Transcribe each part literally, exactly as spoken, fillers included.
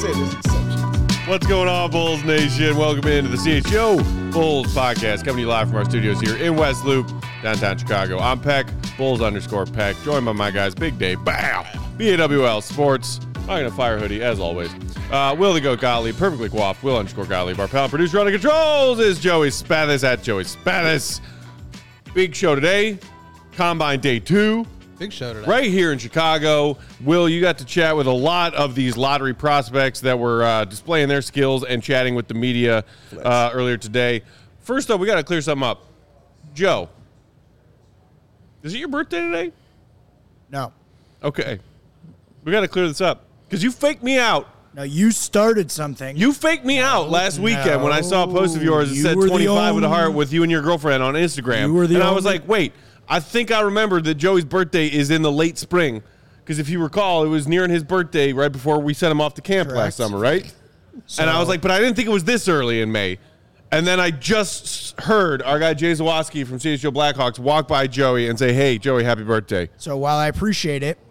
said there's exceptions. What's going on, Bulls Nation? Welcome into the C H O Bulls podcast, coming to you live from our studios here in West Loop, downtown Chicago. I'm Peck, Bulls underscore Peck, joined by my guys, Big Dave, Bow, B A W L Sports. I'm going to fire hoodie, as always. Uh, Will the Goat Gottlieb, perfectly coiffed, Will underscore Gottlieb. Our pal producer on the controls is Joey Spathis at Joey Spathis. Big show today, Combine Day two. Big show today. Right here in Chicago. Will, you got to chat with a lot of these lottery prospects that were uh, displaying their skills and chatting with the media uh, earlier today. First up, we got to clear something up. Joe, is it your birthday today? No. Okay. We got to clear this up because you faked me out. No, you started something. You faked me out last weekend when I saw a post of yours that You said were the twenty-five with a heart only- with you and your girlfriend on Instagram. You were the and I was only- like, wait, I think I remembered that Joey's birthday is in the late spring. Because if you recall, it was nearing his birthday right before we sent him off to camp Correct. last summer, right? So- and I was like, but I didn't think it was this early in May. And then I just heard our guy Jay Zawoski from C H O Blackhawks walk by Joey and say, hey, Joey, happy birthday. So while I appreciate it,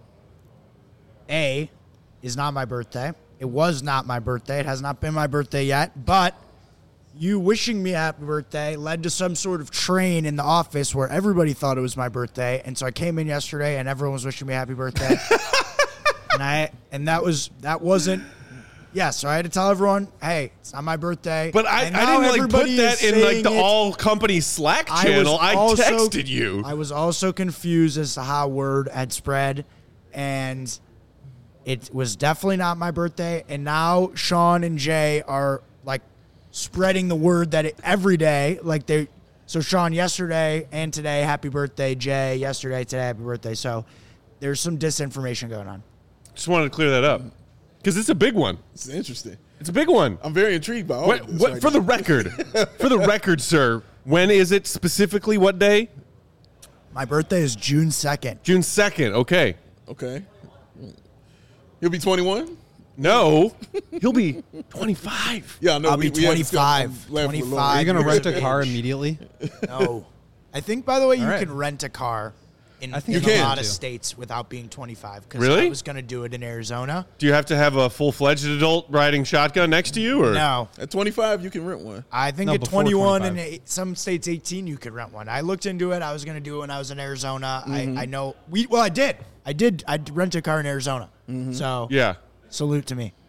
A, is not my birthday. It was not my birthday. It has not been my birthday yet. But you wishing me happy birthday led to some sort of train in the office where everybody thought it was my birthday. And so I came in yesterday and everyone was wishing me happy birthday. and I and that was that wasn't yeah, so I had to tell everyone, hey, it's not my birthday. But I, And I now didn't like put everybody that is in like saying the it. all company Slack I channel. was I, also- texted you. I was also confused as to how word had spread, and it was definitely not my birthday. And now Sean and Jay are like spreading the word that it, every day, like they. So Sean yesterday and today, happy birthday. Jay yesterday, today, happy birthday. So there's some disinformation going on. Just wanted to clear that up because it's a big one. It's interesting. It's a big one. I'm very intrigued by all What, of this. what, right for now. the record, for the record, sir, when is it specifically? What day? My birthday is June second. June second. Okay. Okay. He'll be twenty-one? No, he'll be twenty-five. Yeah, I know. I'll we, be we had this twenty-five. discussion last week. twenty-five. Are you going to rent a Age. car immediately? No. I think, by the way, you All right. can rent a car in, I think in you a can. lot of too. states without being twenty-five. Because Really? I was going to do it in Arizona. Do you have to have a full-fledged adult riding shotgun next to you, or No. At twenty-five, you can rent one. I think No, at before twenty-one and twenty-five. eight, some states eighteen, you could rent one. I looked into it. I was going to do it when I was in Arizona. Mm-hmm. I, I know. we Well, I did. I did. I did rent a car in Arizona. Mm-hmm. So, yeah? salute to me.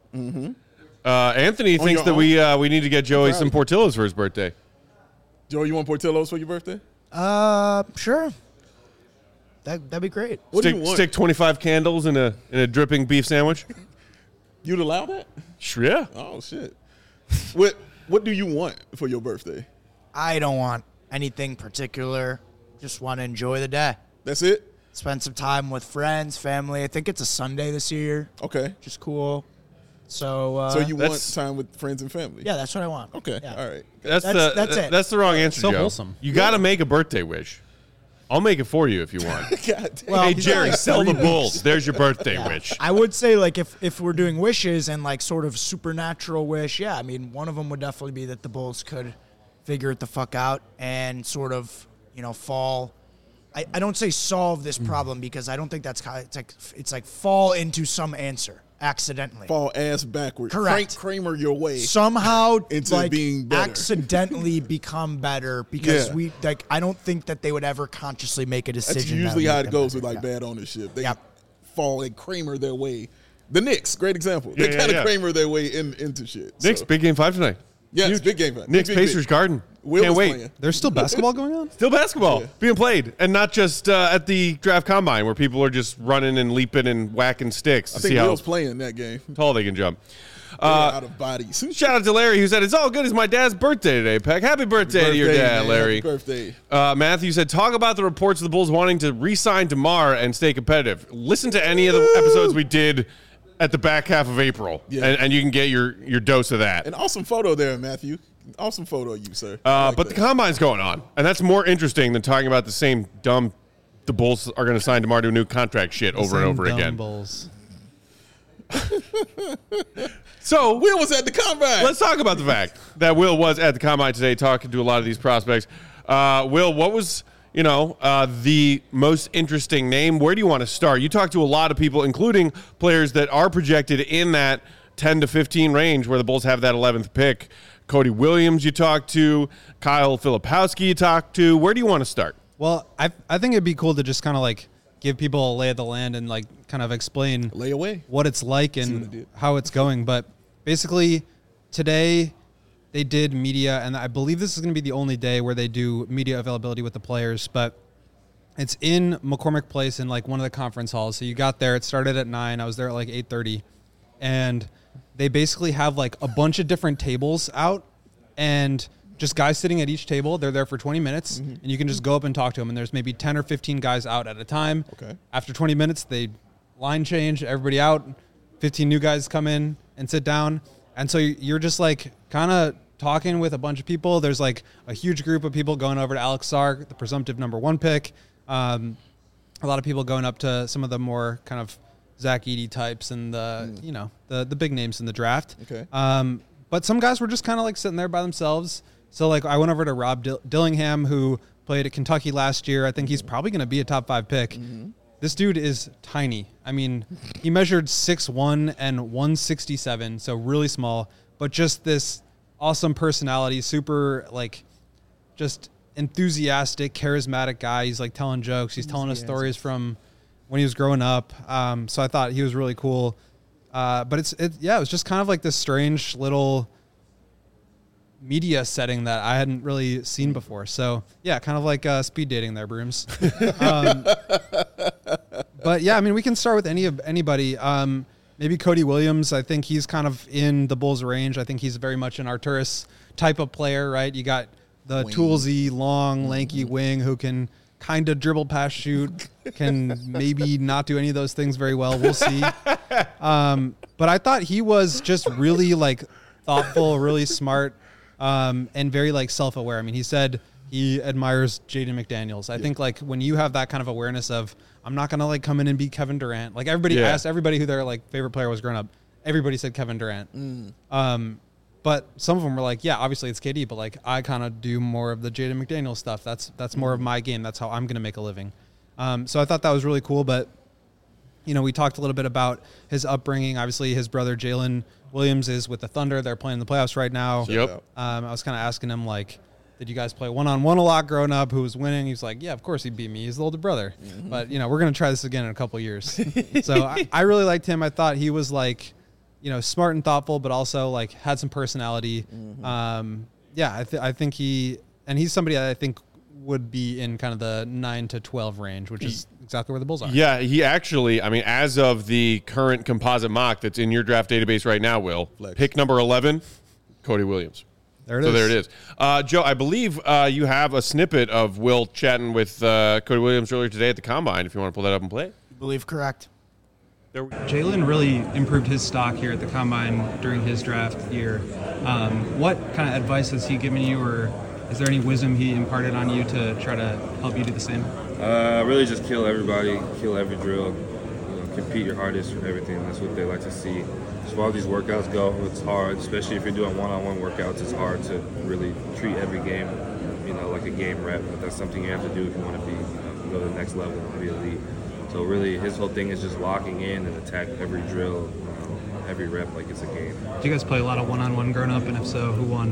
Uh, Anthony On thinks your that own? we uh, we need to get Joey some Proud. Portillo's for his birthday. Joe, you want Portillo's for your birthday? Uh, sure. That, that'd be great. What stick, do you want? stick twenty-five candles in a in a dripping beef sandwich. You'd allow that? Sure, yeah. Oh, shit. what What do you want for your birthday? I don't want anything particular. Just want to enjoy the day. That's it? Spend some time with friends, family. I think it's a Sunday this year, Okay. which is cool. So, uh, So you want that's- time with friends and family? yeah, that's what I want. Okay. Yeah. All right. That's, That's- the that's it. That's the wrong answer, So Joe. wholesome. You got to make a birthday wish. I'll make it for you if you want. God damn. Well, hey he's Jerry, got sell the three Bulls. There's your birthday wish. I would say, like, if, if we're doing wishes and, like, sort of supernatural wish, yeah, I mean, one of them would definitely be that the Bulls could figure it the fuck out and sort of, you know, fall. I, I don't say solve this problem because I don't think that's kind of, it's like, it's like fall into some answer accidentally. Fall ass backwards. Correct. Frank Kramer your way. Somehow, Into like, being better. accidentally become better because Yeah. we, like, I don't think that they would ever consciously make a decision. That's that would usually make how it them goes better. with like Yeah. bad ownership. They Yep. fall and Kramer their way. The Knicks, great example. Yeah, they yeah, kind of yeah. Kramer their way in, into shit. Knicks, So, big game five tonight. yes, Huge. big game. Big, Knicks, big, Pacers, big. Garden. Will Can't is wait. playing. There's still basketball going on? Still basketball Yeah. being played, and not just uh, at the draft combine where people are just running and leaping and whacking sticks I to think see how Will's playing that game. tall they can jump. They're Uh, out of bodies. Shout out to Larry who said, it's all good. It's my dad's birthday today, Peck. Happy birthday, to your Birthday, dad, man. Larry. Happy birthday. Uh, Matthew said, talk about the reports of the Bulls wanting to re-sign DeMar and stay competitive. Listen to any of the episodes we did at the back half of April, Yeah. and, and you can get your, your dose of that. An awesome photo there, Matthew. Awesome photo of you, sir. I Uh, like but that. the combine's going on, and that's more interesting than talking about the same dumb the Bulls are going to sign DeMar to a new contract shit over and Same over dumb again. Bulls. So Will was at the combine. let's talk about the fact that Will was at the combine today talking to a lot of these prospects. Uh, Will, what was, you know, uh, the most interesting name? Where do you want to start? You talked to a lot of people, including players that are projected in that ten to fifteen range where the Bulls have that eleventh pick. Cody Williams you talked to, Kyle Filipowski you talked to. Where do you want to start? Well, I I think it'd be cool to just kind of like give people a lay of the land and like kind of explain Lay away. what it's like what I and did. how it's going. But basically, today they did media, and I believe this is going to be the only day where they do media availability with the players. But it's in McCormick Place in like one of the conference halls. So you got there. It started at nine. I was there at like eight thirty, and they basically have like a bunch of different tables out and just guys sitting at each table. They're there for twenty minutes, mm-hmm. and you can just go up and talk to them. And there's maybe ten or fifteen guys out at a time. Okay. After twenty minutes, they line change, everybody out. fifteen new guys come in and sit down. And so you're just like kind of talking with a bunch of people. There's like a huge group of people going over to Alex Sarg, the presumptive number one pick. Um, a lot of people going up to some of the more kind of Zach Edey types and the, mm. you know, the, the big names in the draft. Okay. Um, but some guys were just kind of like sitting there by themselves. So like I went over to Rob Dill- Dillingham, who played at Kentucky last year. I think he's probably going to be a top five pick. Mm-hmm. This dude is tiny. I mean, he measured six one and one sixty-seven, so really small, but just this awesome personality, super like just enthusiastic, charismatic guy. He's like telling jokes. He's telling us stories from when he was growing up. Um, so I thought he was really cool. Uh, but it's, it, yeah, it was just kind of like this strange little media setting that I hadn't really seen before. So yeah, kind of like uh, speed dating there, Brooms. um, but yeah, I mean, we can start with any of anybody. Um, maybe Cody Williams. I think he's kind of in the Bulls range. I think he's very much an Arturas type of player, right? You got the wing. Toolsy, long, lanky wing who can kind of dribble, pass, shoot, can maybe not do any of those things very well. We'll see. Um, but I thought he was just really like thoughtful, really smart, um, and very like self-aware. I mean, he said he admires Jaden McDaniels. I yeah. think like when you have that kind of awareness of, I'm not going to like come in and beat Kevin Durant. Like everybody yeah. asked everybody who their like favorite player was growing up. Everybody said Kevin Durant. Mm. Um, But some of them were like, yeah, obviously it's K D, but like I kind of do more of the Jaden McDaniels stuff. That's that's more of my game. That's how I'm going to make a living. Um, so I thought that was really cool. But, you know, we talked a little bit about his upbringing. Obviously, his brother Jalen Williams is with the Thunder. They're playing in the playoffs right now. Yep. Um, I was kind of asking him, like, did you guys play one-on-one a lot growing up? Who was winning? He was like, yeah, of course he beat me. He's the older brother. Mm-hmm. But, you know, we're going to try this again in a couple of years. So I, I really liked him. I thought he was like, you know, smart and thoughtful, but also like had some personality. Mm-hmm. Um, yeah, I, th- I think he, and he's somebody that I think would be in kind of the nine to twelve range, which is exactly where the Bulls are. Yeah, he actually, I mean, as of the current composite mock that's in your draft database right now, Will, Flex. Pick number eleven, Cody Williams. There it so is. there it is. Uh, Joe, I believe uh, you have a snippet of Will chatting with uh, Cody Williams earlier today at the Combine, if you want to pull that up and play it. I believe correct. Jalen really improved his stock here at the Combine during his draft year. Um, what kind of advice has he given you, or is there any wisdom he imparted on you to try to help you do the same? Uh, really just kill everybody, kill every drill, you know, compete your hardest for everything. That's what they like to see. As far as these workouts go, it's hard, especially if you're doing one-on-one workouts. It's hard to really treat every game, you know, like a game rep, but that's something you have to do if you want to be, you know, go to the next level and be elite. So really, his whole thing is just locking in and attack every drill, um, every rep like it's a game. Did you guys play a lot of one-on-one growing up, and if so, who won?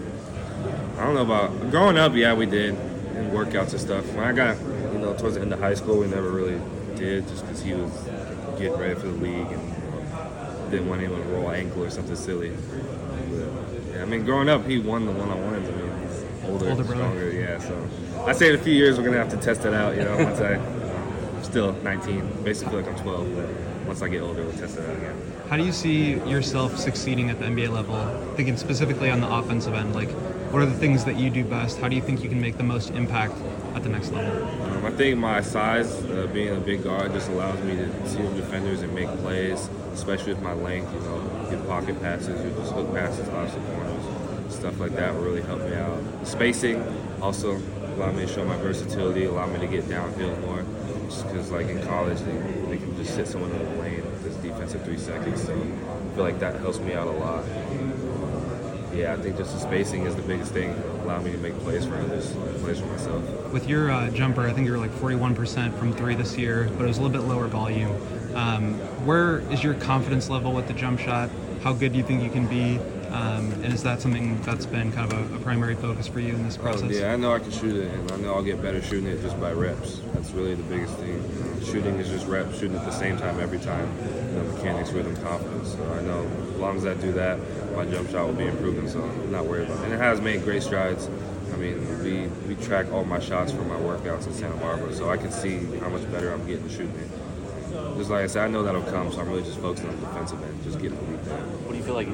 I don't know about growing up. Yeah, we did, and workouts and stuff. When I got, you know, towards the end of high school, we never really did, just because he was getting ready for the league and didn't want anyone to roll ankle or something silly. But, yeah, I mean, growing up, he won the one-on-ones. I mean, he's older, older stronger. Yeah, so I say in a few years we're gonna have to test it out. You know, once I. Still nineteen, basically like I'm twelve, but once I get older, we'll test it out again. How do you see yourself succeeding at the N B A level, thinking specifically on the offensive end? Like, what are the things that you do best? How do you think you can make the most impact at the next level? Um, I think my size, uh, being a big guard, just allows me to see the defenders and make plays, especially with my length, you know, get pocket passes or just hook passes off the corners. Stuff like that will really help me out. Spacing also allow me to show my versatility, allow me to get downhill more. Because like in college, they, they can just sit someone in the lane with this defensive three seconds. So I feel like that helps me out a lot. Yeah, I think just the spacing is the biggest thing. Allow me to make plays for others, plays for myself. With your uh, jumper, I think you're like forty-one percent from three this year, but it was a little bit lower volume. Um, where is your confidence level with the jump shot? How good do you think you can be? Um, and is that something that's been kind of a, a primary focus for you in this process? Oh, yeah, I know I can shoot it, and I know I'll get better shooting it just by reps. That's really the biggest thing. Uh, shooting is just reps, shooting at the same time every time. You know, mechanics, rhythm, confidence. So I know as long as I do that, my jump shot will be improving, so I'm not worried about it. And it has made great strides. I mean, we, we track all my shots from my workouts in Santa Barbara, so I can see how much better I'm getting shooting it. Just like I said, I know that'll come, so I'm really just focusing on the defensive end, just getting the weak there. What do you feel like?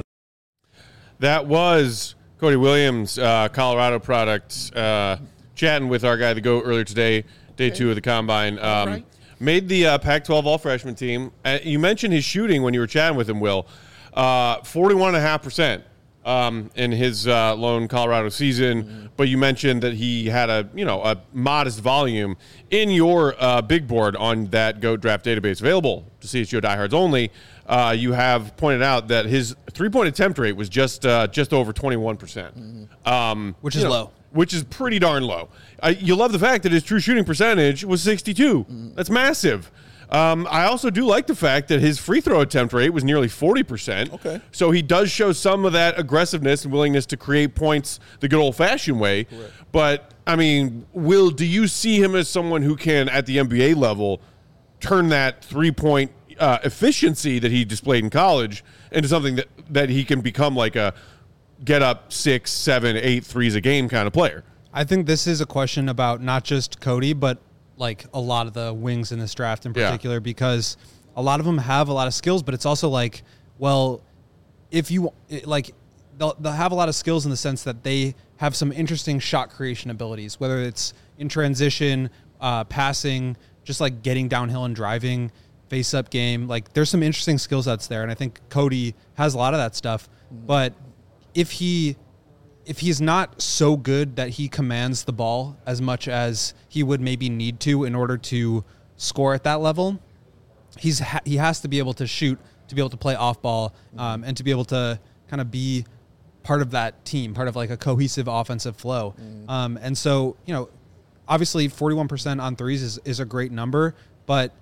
That was Cody Williams, uh, Colorado product, uh, chatting with our guy, the GOAT, earlier today, day two of the Combine. Um, right. Made the uh, Pac twelve all-freshman team. Uh, you mentioned his shooting when you were chatting with him, Will. Uh, forty-one point five percent um, in his uh, lone Colorado season, mm-hmm. but you mentioned that he had a, you know, a modest volume. In your uh, big board on that GOAT draft database available to C H G O diehards only, uh, you have pointed out that his three-point attempt rate was just uh, just over twenty-one percent. Mm-hmm. Um, Which is know, low. Which is pretty darn low. Uh, you love the fact that his true shooting percentage was sixty-two. Mm-hmm. That's massive. Um, I also do like the fact that his free throw attempt rate was nearly forty percent. Okay. So he does show some of that aggressiveness and willingness to create points the good old-fashioned way. Correct. But, I mean, Will, do you see him as someone who can, at the N B A level, turn that three-point uh, efficiency that he displayed in college into something that, that he can become like a get up six, seven, eight threes a game kind of player? I think this is a question about not just Cody, but like a lot of the wings in this draft in particular, yeah. because a lot of them have a lot of skills, but it's also like, well, if you like, they'll, they'll have a lot of skills in the sense that they have some interesting shot creation abilities, whether it's in transition, uh, passing, just like getting downhill and driving, face up game. Like there's some interesting skill sets there. And I think Cody has a lot of that stuff, mm-hmm. but if he, if he's not so good that he commands the ball as much as he would maybe need to in order to score at that level, he's ha- he has to be able to shoot, to be able to play off ball, um, and to be able to kind of be part of that team, part of like a cohesive offensive flow. Mm. Um, and so, you know, obviously forty-one percent on threes is, is a great number, but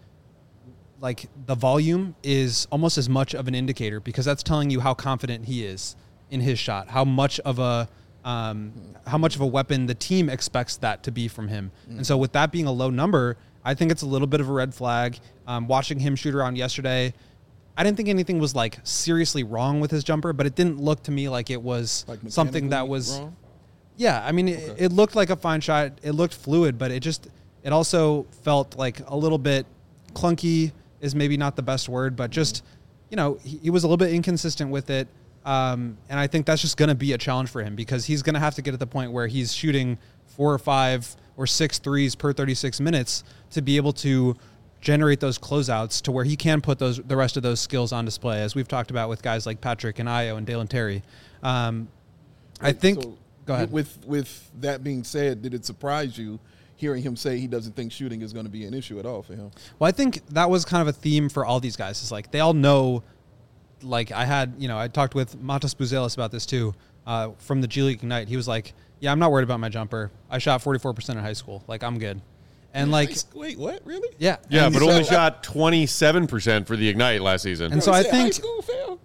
like the volume is almost as much of an indicator because that's telling you how confident he is in his shot, how much of a um, how much of a weapon the team expects that to be from him. Mm. And so with that being a low number, I think it's a little bit of a red flag. Um, watching him shoot around yesterday, I didn't think anything was like seriously wrong with his jumper, but it didn't look to me like it was like something that was wrong? Yeah, I mean, okay. it, it looked like a fine shot. It looked fluid, but it just it also felt like a little bit clunky is maybe not the best word, but just, you know, he, he was a little bit inconsistent with it. Um, and I think that's just going to be a challenge for him because he's going to have to get at the point where he's shooting four or five or six threes per thirty-six minutes to be able to generate those closeouts to where he can put those the rest of those skills on display, as we've talked about with guys like Patrick and Ayo and Dalen Terry. Um, I think. So go ahead. With with that being said, did it surprise you hearing him say he doesn't think shooting is going to be an issue at all for him? Well, I think that was kind of a theme for all these guys. It's like they all know. Like I had, you know, I talked with Matas Buzelis about this too, uh, from the G League Ignite. He was like, yeah, I'm not worried about my jumper. I shot forty-four percent in high school. Like, I'm good. And like, wait, what? Really? Yeah. Yeah, and but so, only shot twenty-seven percent for the Ignite last season. And so I think, school,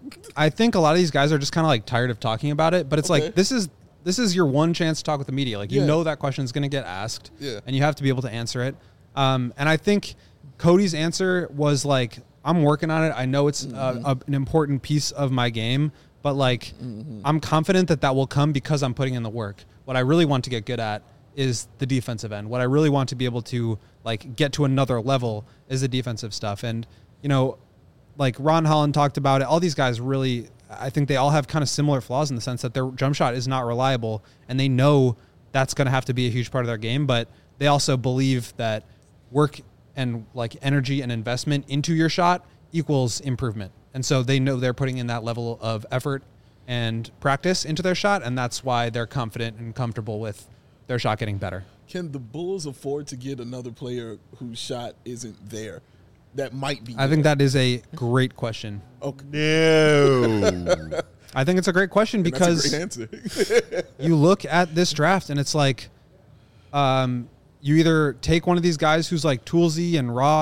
I think a lot of these guys are just kind of like tired of talking about it, but it's Okay. like, this is, this is your one chance to talk with the media. Like, you Yeah. know, that question is going to get asked Yeah. and you have to be able to answer it. Um, and I think Cody's answer was like, I'm working on it. I know it's mm-hmm. a, a, an important piece of my game, but like, mm-hmm. I'm confident that that will come because I'm putting in the work. What I really want to get good at is the defensive end. What I really want to be able to like get to another level is the defensive stuff. And, you know, like Ron Holland talked about it. All these guys really, I think they all have kind of similar flaws in the sense that their jump shot is not reliable and they know that's going to have to be a huge part of their game, but they also believe that work and like energy and investment into your shot equals improvement. And so they know they're putting in that level of effort and practice into their shot. And that's why they're confident and comfortable with their shot getting better. Can the Bulls afford to get another player whose shot isn't there? That might be. I think there? that is a great question. Okay. No. I think it's a great question And because that's a great answer. you look at this draft and it's like, um, you either take one of these guys who's like toolsy and raw,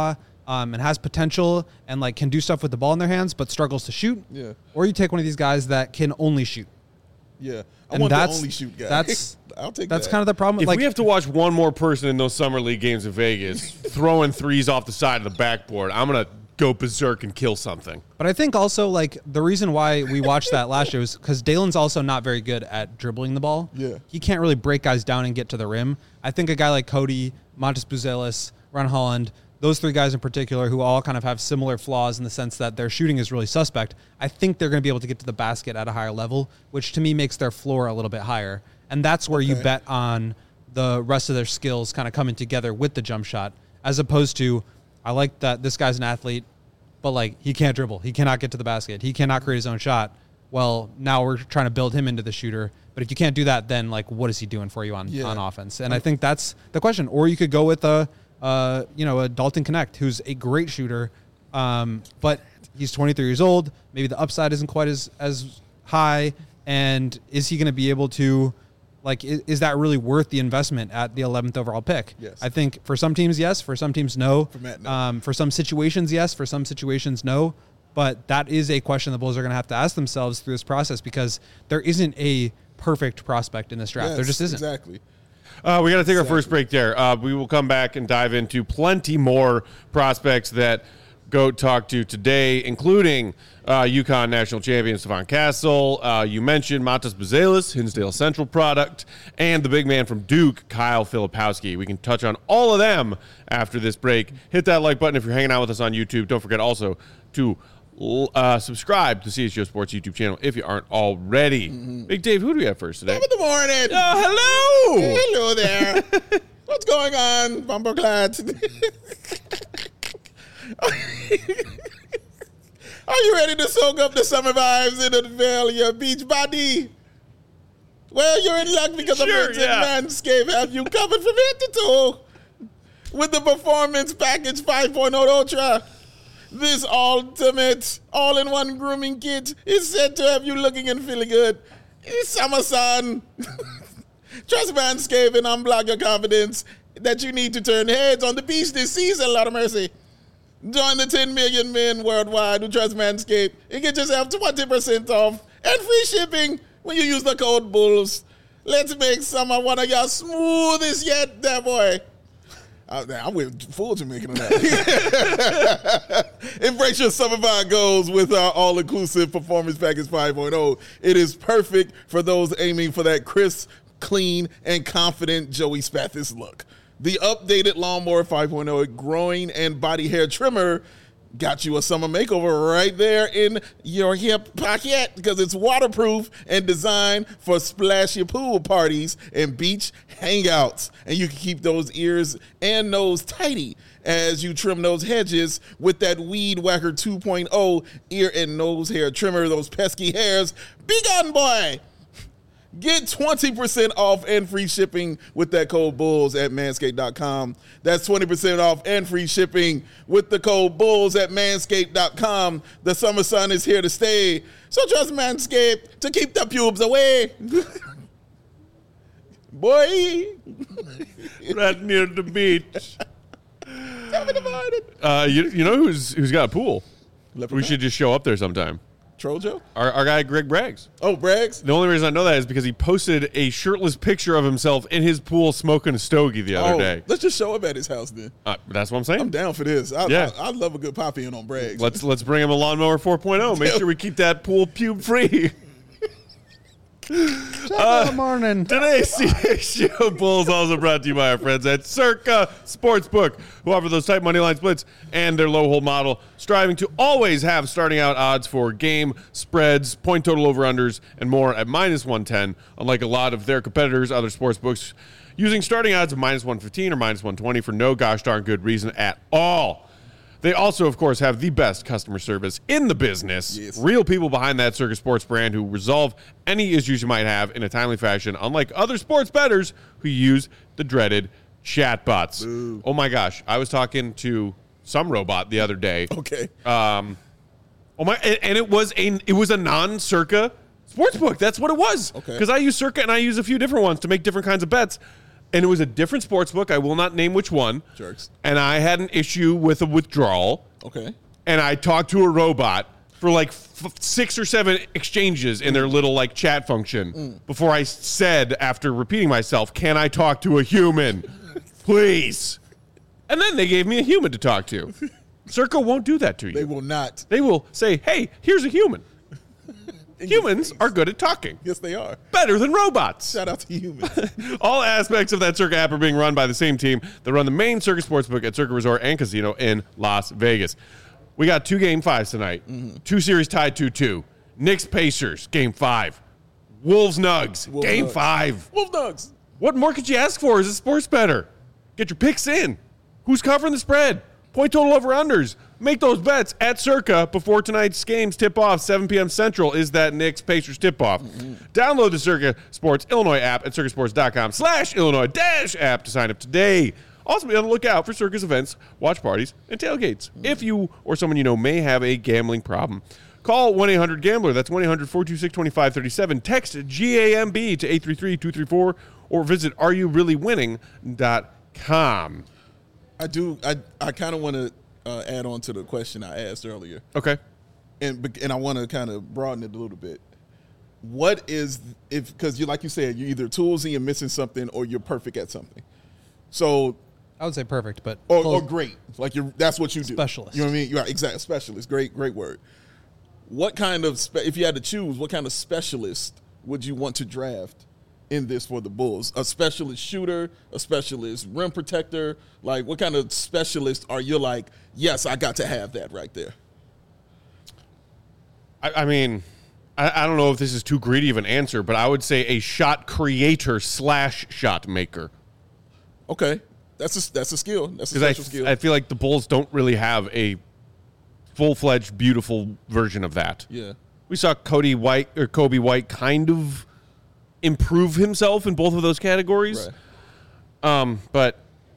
um, and has potential and like can do stuff with the ball in their hands, but struggles to shoot. Yeah. Or you take one of these guys that can only shoot. Yeah. I And want that's the only shoot guy. that's I'll take that's that. kind of the problem. If like we have to watch one more person in those summer league games in Vegas throwing threes off the side of the backboard, I'm gonna go berserk and kill something. But I think also like the reason why we watched that last year was because Dalen's also not very good at dribbling the ball. Yeah. He can't really break guys down and get to the rim. I think a guy like Cody, Montes Buzelis, Ron Holland, those three guys in particular who all kind of have similar flaws in the sense that their shooting is really suspect, I think they're going to be able to get to the basket at a higher level, which to me makes their floor a little bit higher. And that's where you Okay. bet on the rest of their skills kind of coming together with the jump shot, as opposed to, I like that this guy's an athlete, but like he can't dribble. He cannot get to the basket. He cannot create his own shot. Well, now we're trying to build him into the shooter. But if you can't do that, then like what is he doing for you on, Yeah. on offense? And I think that's the question. Or you could go with a uh, you know, a Dalton Connect, who's a great shooter, um, but he's twenty-three years old. Maybe the upside isn't quite as as high. And is he going to be able to, like, is, is that really worth the investment at the eleventh overall pick? Yes. I think for some teams, yes. For some teams, no. For Matt, no. Um, for some situations, yes. For some situations, no. But that is a question the Bulls are going to have to ask themselves through this process because there isn't a perfect prospect in this draft. Yes, there just isn't. Exactly. Uh, we got to take our Exactly. first break there. Uh, we will come back and dive into plenty more prospects that Goat talked to today, including uh, UConn national champion Stephon Castle. Uh, you mentioned Montes Buzelis, Hinsdale Central product, and the big man from Duke, Kyle Filipowski. We can touch on all of them after this break. Hit that like button if you're hanging out with us on YouTube. Don't forget also to uh, subscribe to C H G O Sports YouTube channel if you aren't already. Mm-hmm. Big Dave, who do we have first today? Top of the morning. Oh, hello! Hello there. What's going on, Bumperclads? Are you ready to soak up the summer vibes and unveil your beach body? Well, you're in luck because Sure, Average yeah. and Manscaped have you covered from head to toe with the Performance Package five point oh Ultra. This ultimate all-in-one grooming kit is said to have you looking and feeling good. It's summer sun. Trust Manscaped and unblock your confidence that you need to turn heads on the beach this season, Lord of mercy. Join the ten million men worldwide who trust Manscaped and get yourself twenty percent off and free shipping when you use the code BULLS. Let's make summer one of your smoothest yet, there boy. I, I went full Jamaican on that. Embrace your summer vibe goals with our all-inclusive Performance Package five point oh. It is perfect for those aiming for that crisp, clean, and confident Joey Spathis look. The updated Lawnmower five point oh growing and body hair trimmer got you a summer makeover right there in your hip pocket because it's waterproof and designed for splashy pool parties and beach hangouts. And you can keep those ears and nose tidy as you trim those hedges with that Weed Whacker two point oh ear and nose hair trimmer. Those pesky hairs, be gone, boy. Get twenty percent off and free shipping with that code BULLS at manscaped dot com. That's twenty percent off and free shipping with the code BULLS at manscaped dot com. The summer sun is here to stay, so trust Manscaped to keep the pubes away. Boy. Right near the beach. Tell me about it. Uh, you, you know who's who's got a pool? Leopard We Town? should just show up there sometime. Trojo? Our, our guy Greg Braggs. Oh, Braggs? The only reason I know that is because he posted a shirtless picture of himself in his pool smoking a stogie the other Oh, day. let's just show up at his house then. Uh, that's what I'm saying. I'm down for this. I, Yeah. I, I love a good pop-in on Braggs. Let's let's bring him a lawnmower four point oh. Make sure we keep that pool pube free. Top of the morning. Today's C H G O Bulls also brought to you by our friends at Circa Sportsbook, who offer those tight money line splits and their low hold model, striving to always have starting out odds for game, spreads, point total over-unders, and more at minus one ten, unlike a lot of their competitors, other sportsbooks, using starting odds of minus one fifteen or minus one twenty for no gosh darn good reason at all. They also, of course, have the best customer service in the business. Yes. Real people behind that Circus Sports brand who resolve any issues you might have in a timely fashion, unlike other sports bettors who use the dreaded chatbots. Boo. Oh my gosh, I was talking to some robot the other day. Okay. Um, oh my, and, and it was a it was a non-Circa sportsbook. That's what it was. Okay. Because I use Circa and I use a few different ones to make different kinds of bets. and it was a different sports book. I will not name which one. Jerks. And I had an issue with a withdrawal. Okay. And I talked to a robot for like f- six or seven exchanges in their little like chat function mm. before I said, after repeating myself, can I talk to a human? Please. And then they gave me a human to talk to. Circa won't do that to you. They will not. They will say, hey, here's a human. Humans are good at talking. Yes, they are. Better than robots. Shout out to humans. All aspects of that Circa app are being run by the same team that run the main Circa Sportsbook at Circa Resort and Casino in Las Vegas. We got two game fives tonight. Mm-hmm. Two series tied two two. Knicks Pacers, game five. Wolves Nugs, Wolves game Nugs. five. Wolves Nugs. What more could you ask for as a sports bettor? Get your picks in. Who's covering the spread? Point total over unders. Make those bets at Circa before tonight's games tip off. seven p.m. Central is that Knicks Pacers tip off. Mm-hmm. Download the Circa Sports Illinois app at circasports.com slash Illinois dash app to sign up today. Also be on the lookout for Circa's events, watch parties, and tailgates. Mm-hmm. If you or someone you know may have a gambling problem, call one eight hundred gambler. That's one eight hundred four two six two five three seven. Text G A M B to eight three three two three four or visit are you really winning dot com. I do. I, I kind of want to uh, add on to the question I asked earlier. Okay. And and I want to kind of broaden it a little bit. What is, if, because you like you said, you're either toolsy and missing something or you're perfect at something. So. I would say perfect, but. Or, or great. Like you're, that's what you do. Specialist. You know what I mean? You're exactly. Specialist. Great, great word. What kind of, spe- if you had to choose, what kind of specialist would you want to draft in this for the Bulls? A specialist shooter, a specialist rim protector? Like, what kind of specialist are you like, yes, I got to have that right there? I, I mean, I, I don't know if this is too greedy of an answer, but I would say a shot creator slash shot maker. Okay. That's a, that's a skill. That's a special I, skill. I feel like the Bulls don't really have a full-fledged, beautiful version of that. Yeah. We saw Cody White or Kobe White kind of improve himself in both of those categories. Right. Um, but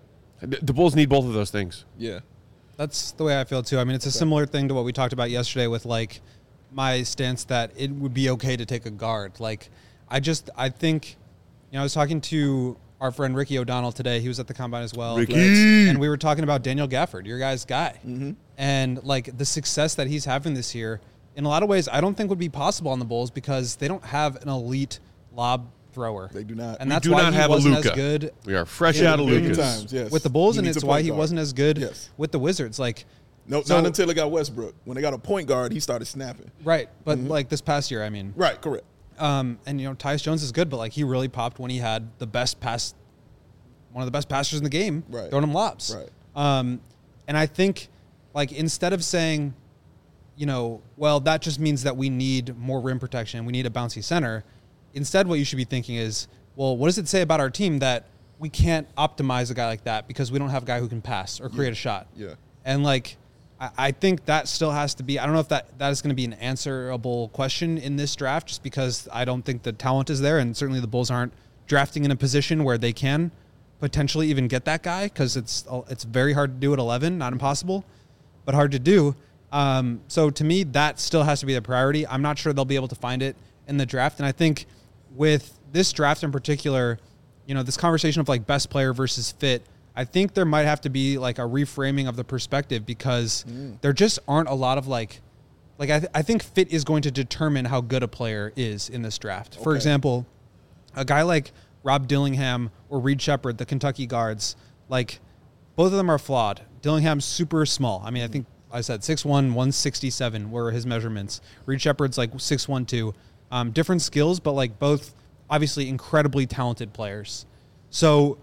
the Bulls need both of those things. Yeah. That's the way I feel too. I mean, it's a similar thing to what we talked about yesterday with like my stance that it would be okay to take a guard. Like, I just, I think, you know, I was talking to our friend Ricky O'Donnell today. He was at the Combine as well. Ricky! And we were talking about Daniel Gafford, your guy's guy. Mm-hmm. And like the success that he's having this year, in a lot of ways, I don't think would be possible on the Bulls because they don't have an elite lob thrower. They do not. And we that's do why not he have wasn't a Luka. as good. We are fresh Yeah, out of Many Lucas. times, yes. With the Bulls, He and needs it's a why point he guard. wasn't as good Yes. with the Wizards. Like, No, so- not until they got Westbrook. When they got a point guard, he started snapping. right. But Mm-hmm. like this past year, I mean, Right, correct. Um, and you know, Tyus Jones is good, but like he really popped when he had the best pass, one of the best passers in the game, Right. throwing him lobs. Right. Um, and I think, like, instead of saying, you know, well, that just means that we need more rim protection, we need a bouncy center. Instead, what you should be thinking is, well, what does it say about our team that we can't optimize a guy like that because we don't have a guy who can pass or create a shot? Yeah. And like, I, I think that still has to be, I don't know if that, that is going to be an answerable question in this draft, just because I don't think the talent is there. And certainly the Bulls aren't drafting in a position where they can potentially even get that guy, because it's, it's very hard to do at eleven, not impossible, but hard to do. Um, so to me, that still has to be the priority. I'm not sure they'll be able to find it in the draft. And I think with this draft in particular, you know, this conversation of like best player versus fit, I think there might have to be like a reframing of the perspective, because mm. there just aren't a lot of like, like I, th- I think fit is going to determine how good a player is in this draft. Okay. For example, a guy like Rob Dillingham or Reed Shepherd, the Kentucky guards, like both of them are flawed. Dillingham's super small. I mean, I think I said six one, one sixty-seven were his measurements. Reed Shepherd's like six one, two. Um, different skills, but like both obviously incredibly talented players. So,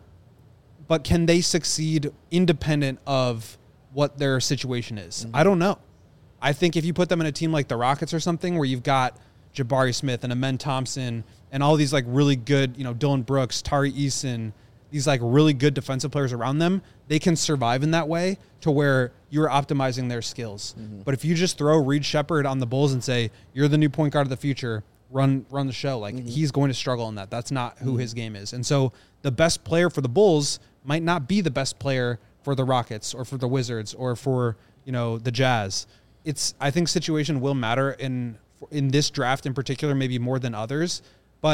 but can they succeed independent of what their situation is? Mm-hmm. I don't know. I think if you put them in a team like the Rockets or something, where you've got Jabari Smith and Amen Thompson and all these like really good, you know, Dylan Brooks, Tari Eason, these like really good defensive players around them, they can survive in that way to where you're optimizing their skills. Mm-hmm. But if you just throw Reed Shepherd on the Bulls and say, you're the new point guard of the future, run run the show, like mm-hmm. he's going to struggle in that. That's not who mm-hmm. his game is. And so the best player for the Bulls might not be the best player for the Rockets or for the Wizards or for, you know, the Jazz. It's, I think situation will matter in in this draft in particular, maybe more than others. But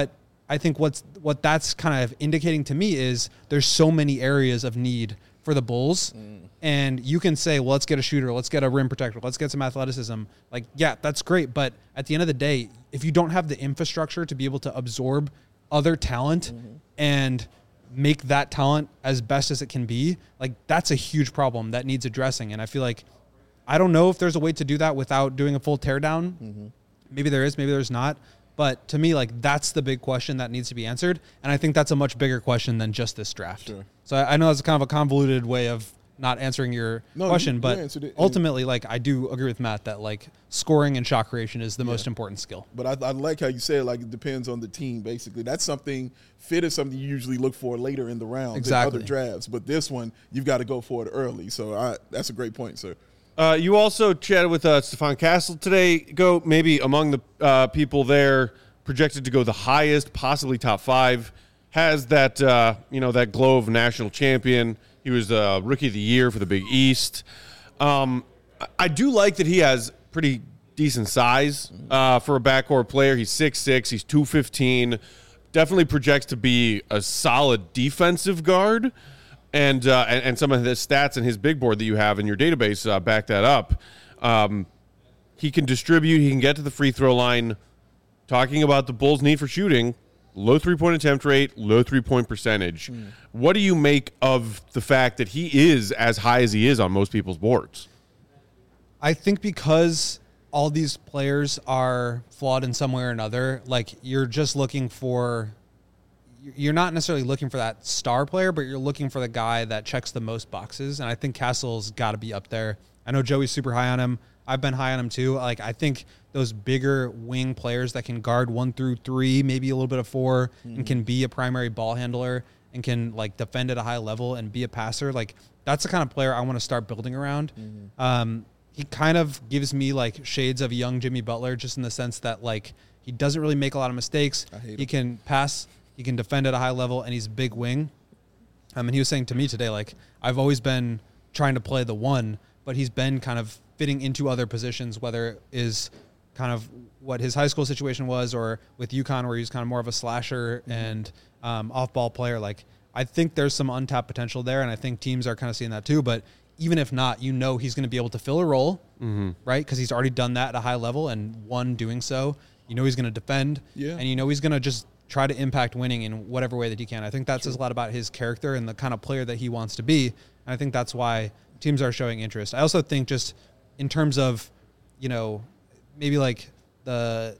I think what's what that's kind of indicating to me is there's so many areas of need for the Bulls. Mm. And you can say, well, let's get a shooter, let's get a rim protector, let's get some athleticism. Like, yeah, that's great. But at the end of the day, if you don't have the infrastructure to be able to absorb other talent mm-hmm. and make that talent as best as it can be, like that's a huge problem that needs addressing. And I feel like, I don't know if there's a way to do that without doing a full teardown. Mm-hmm. Maybe there is, maybe there's not. But to me, like that's the big question that needs to be answered. And I think that's a much bigger question than just this draft. Sure. So I, I know that's kind of a convoluted way of not answering your no, question, you, but you ultimately, like I do agree with Matt that like scoring and shot creation is the yeah. most important skill. But I, I like how you said like it depends on the team. Basically, that's something fit is something you usually look for later in the round exactly. in other drafts. But this one, you've got to go for it early. So I, that's a great point, sir. Uh, you also chatted with uh, Stephon Castle today. Go maybe among the uh, people there projected to go the highest, possibly top five. Has that uh, you know that glow of national champion. He was uh, rookie of the year for the Big East. Um, I do like that he has pretty decent size uh, for a backcourt player. He's six six. He's two fifteen. Definitely projects to be a solid defensive guard. And, uh, and and some of the stats in his big board that you have in your database uh, back that up. Um, he can distribute. He can get to the free throw line. Talking about the Bulls' need for shooting, low three-point attempt rate, low three-point percentage. Mm. What do you make of the fact that he is as high as he is on most people's boards? I think because all these players are flawed in some way or another, like you're just looking for – you're not necessarily looking for that star player, but you're looking for the guy that checks the most boxes. And I think Castle's got to be up there. I know Joey's super high on him. I've been high on him too. Like I think those bigger wing players that can guard one through three, maybe a little bit of four, mm-hmm. and can be a primary ball handler and can like defend at a high level and be a passer. Like that's the kind of player I want to start building around. Mm-hmm. Um, he kind of gives me like shades of young Jimmy Butler, just in the sense that like he doesn't really make a lot of mistakes. He him. can pass. He can defend at a high level, and he's a big wing. Um, and he was saying to me today, like, I've always been trying to play the one, but he's been kind of fitting into other positions, whether it is kind of what his high school situation was or with UConn where he's kind of more of a slasher mm-hmm. and um, off-ball player. Like, I think there's some untapped potential there, and I think teams are kind of seeing that too. But even if not, you know he's going to be able to fill a role, mm-hmm. right? Because he's already done that at a high level, and one, doing so. You know he's going to defend, yeah. and you know he's going to just – try to impact winning in whatever way that he can. I think that says a lot about his character and the kind of player that he wants to be. And I think that's why teams are showing interest. I also think just in terms of, you know, maybe like the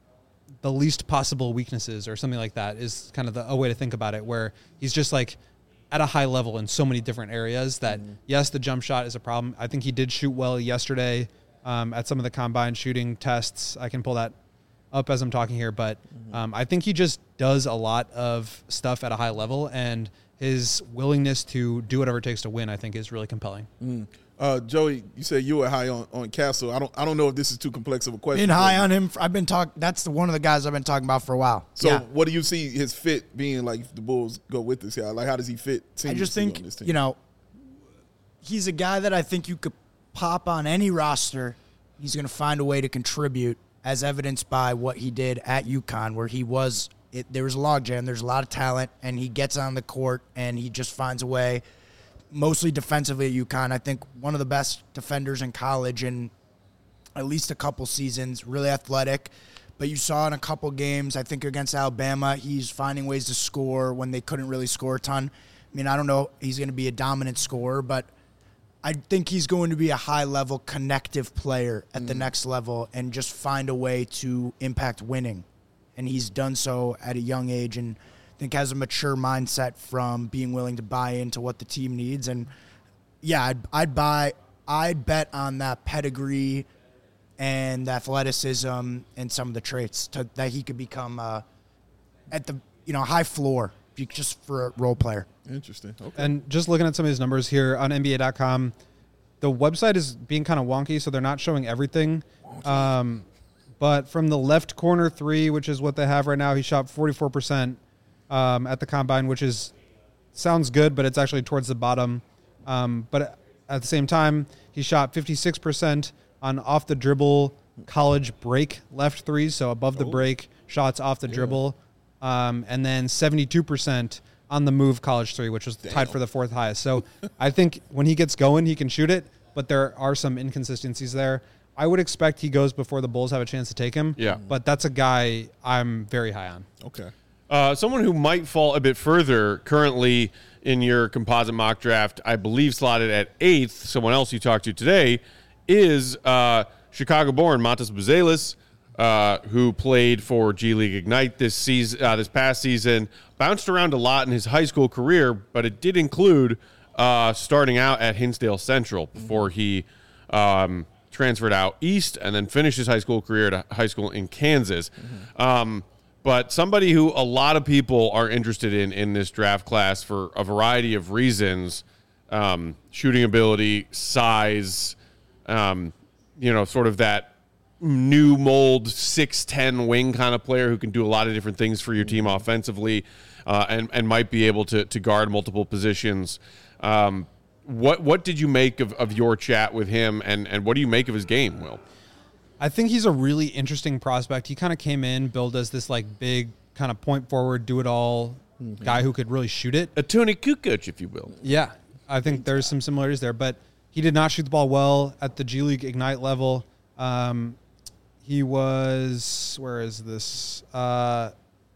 the least possible weaknesses or something like that is kind of the, a way to think about it, where he's just like at a high level in so many different areas that, mm-hmm. yes, the jump shot is a problem. I think he did shoot well yesterday um, at some of the combine shooting tests. I can pull that up as I'm talking here, but um, I think he just does a lot of stuff at a high level, and his willingness to do whatever it takes to win, I think, is really compelling. Mm. Uh, Joey, you said you were high on, on Castle. I don't I don't know if this is too complex of a question. Been high on him. I've been talking. That's the, one of the guys I've been talking about for a while. So yeah. what do you see his fit being like if the Bulls go with this guy? Like how does he fit? I just think, on this team? you know, he's a guy that I think you could pop on any roster. He's going to find a way to contribute, as evidenced by what he did at UConn, where he was, it, there was a logjam, there's a lot of talent, and he gets on the court, and he just finds a way, mostly defensively at UConn. I think one of the best defenders in college in at least a couple seasons, really athletic. But you saw in a couple games, I think against Alabama, he's finding ways to score when they couldn't really score a ton. I mean, I don't know he's going to be a dominant scorer, but I think he's going to be a high-level connective player at mm. the next level and just find a way to impact winning. And he's done so at a young age and I think has a mature mindset from being willing to buy into what the team needs. And, yeah, I'd, I'd buy – I'd bet on that pedigree and athleticism and some of the traits to, that he could become uh, at the, you know, high floor just for a role player. Interesting. Okay. And just looking at some of his numbers here on N B A dot com, the website is being kind of wonky, so they're not showing everything. Um, but from the left corner three, which is what they have right now, he shot forty-four percent um, at the combine, which is sounds good, but it's actually towards the bottom. Um, but at the same time, he shot fifty-six percent on off the dribble college break left threes, so above the oh. break shots off the yeah. dribble. um, and then seventy-two percent on the move college three, which was Damn. tied for the fourth highest. So I think when he gets going, he can shoot it, but there are some inconsistencies there. I would expect he goes before the Bulls have a chance to take him. Yeah. But that's a guy I'm very high on. Okay. Uh, someone who might fall a bit further currently in your composite mock draft, I believe slotted at eighth, someone else you talked to today, is uh, Chicago-born Montas Buzelis, uh, who played for G League Ignite this season, uh, this past season, bounced around a lot in his high school career, but it did include uh, starting out at Hinsdale Central before he um, – transferred out east and then finished his high school career at a high school in Kansas. Mm-hmm. Um, but somebody who a lot of people are interested in in this draft class for a variety of reasons, um, shooting ability, size, um, you know, sort of that new mold six ten wing kind of player who can do a lot of different things for your team offensively uh, and, and might be able to, to guard multiple positions. Um, What what did you make of, of your chat with him, and, and what do you make of his game, Will? I think he's a really interesting prospect. He kind of came in, billed as this like big kind of point forward, do it all mm-hmm. guy who could really shoot it. A Tony Kukoc, if you will. Yeah, I think there's some similarities there, but he did not shoot the ball well at the G League Ignite level. Um, he was, where is this? Uh,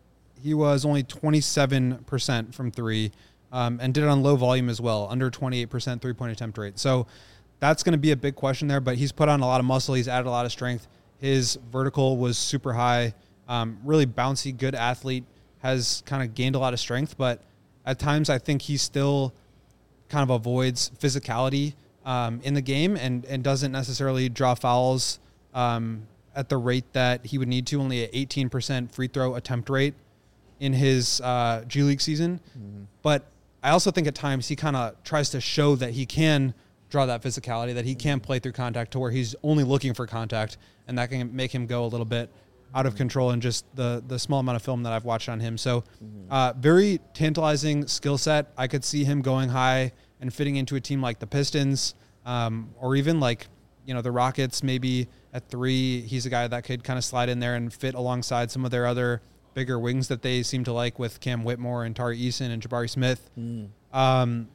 he was only twenty-seven percent from three. Um, and did it on low volume as well, under twenty-eight percent three-point attempt rate. So that's going to be a big question there, but he's put on a lot of muscle. He's added a lot of strength. His vertical was super high, um, really bouncy, good athlete, has kind of gained a lot of strength, but at times I think he still kind of avoids physicality um, in the game and, and doesn't necessarily draw fouls um, at the rate that he would need to, only an eighteen percent free throw attempt rate in his uh, G League season. Mm-hmm. But I also think at times he kind of tries to show that he can draw that physicality, that he can play through contact to where he's only looking for contact, and that can make him go a little bit out of control in just the the small amount of film that I've watched on him. So uh, very tantalizing skill set. I could see him going high and fitting into a team like the Pistons um, or even like, you know, the Rockets maybe at three. He's a guy that could kind of slide in there and fit alongside some of their other bigger wings that they seem to like with Cam Whitmore and Tari Eason and Jabari Smith. Mm. Um,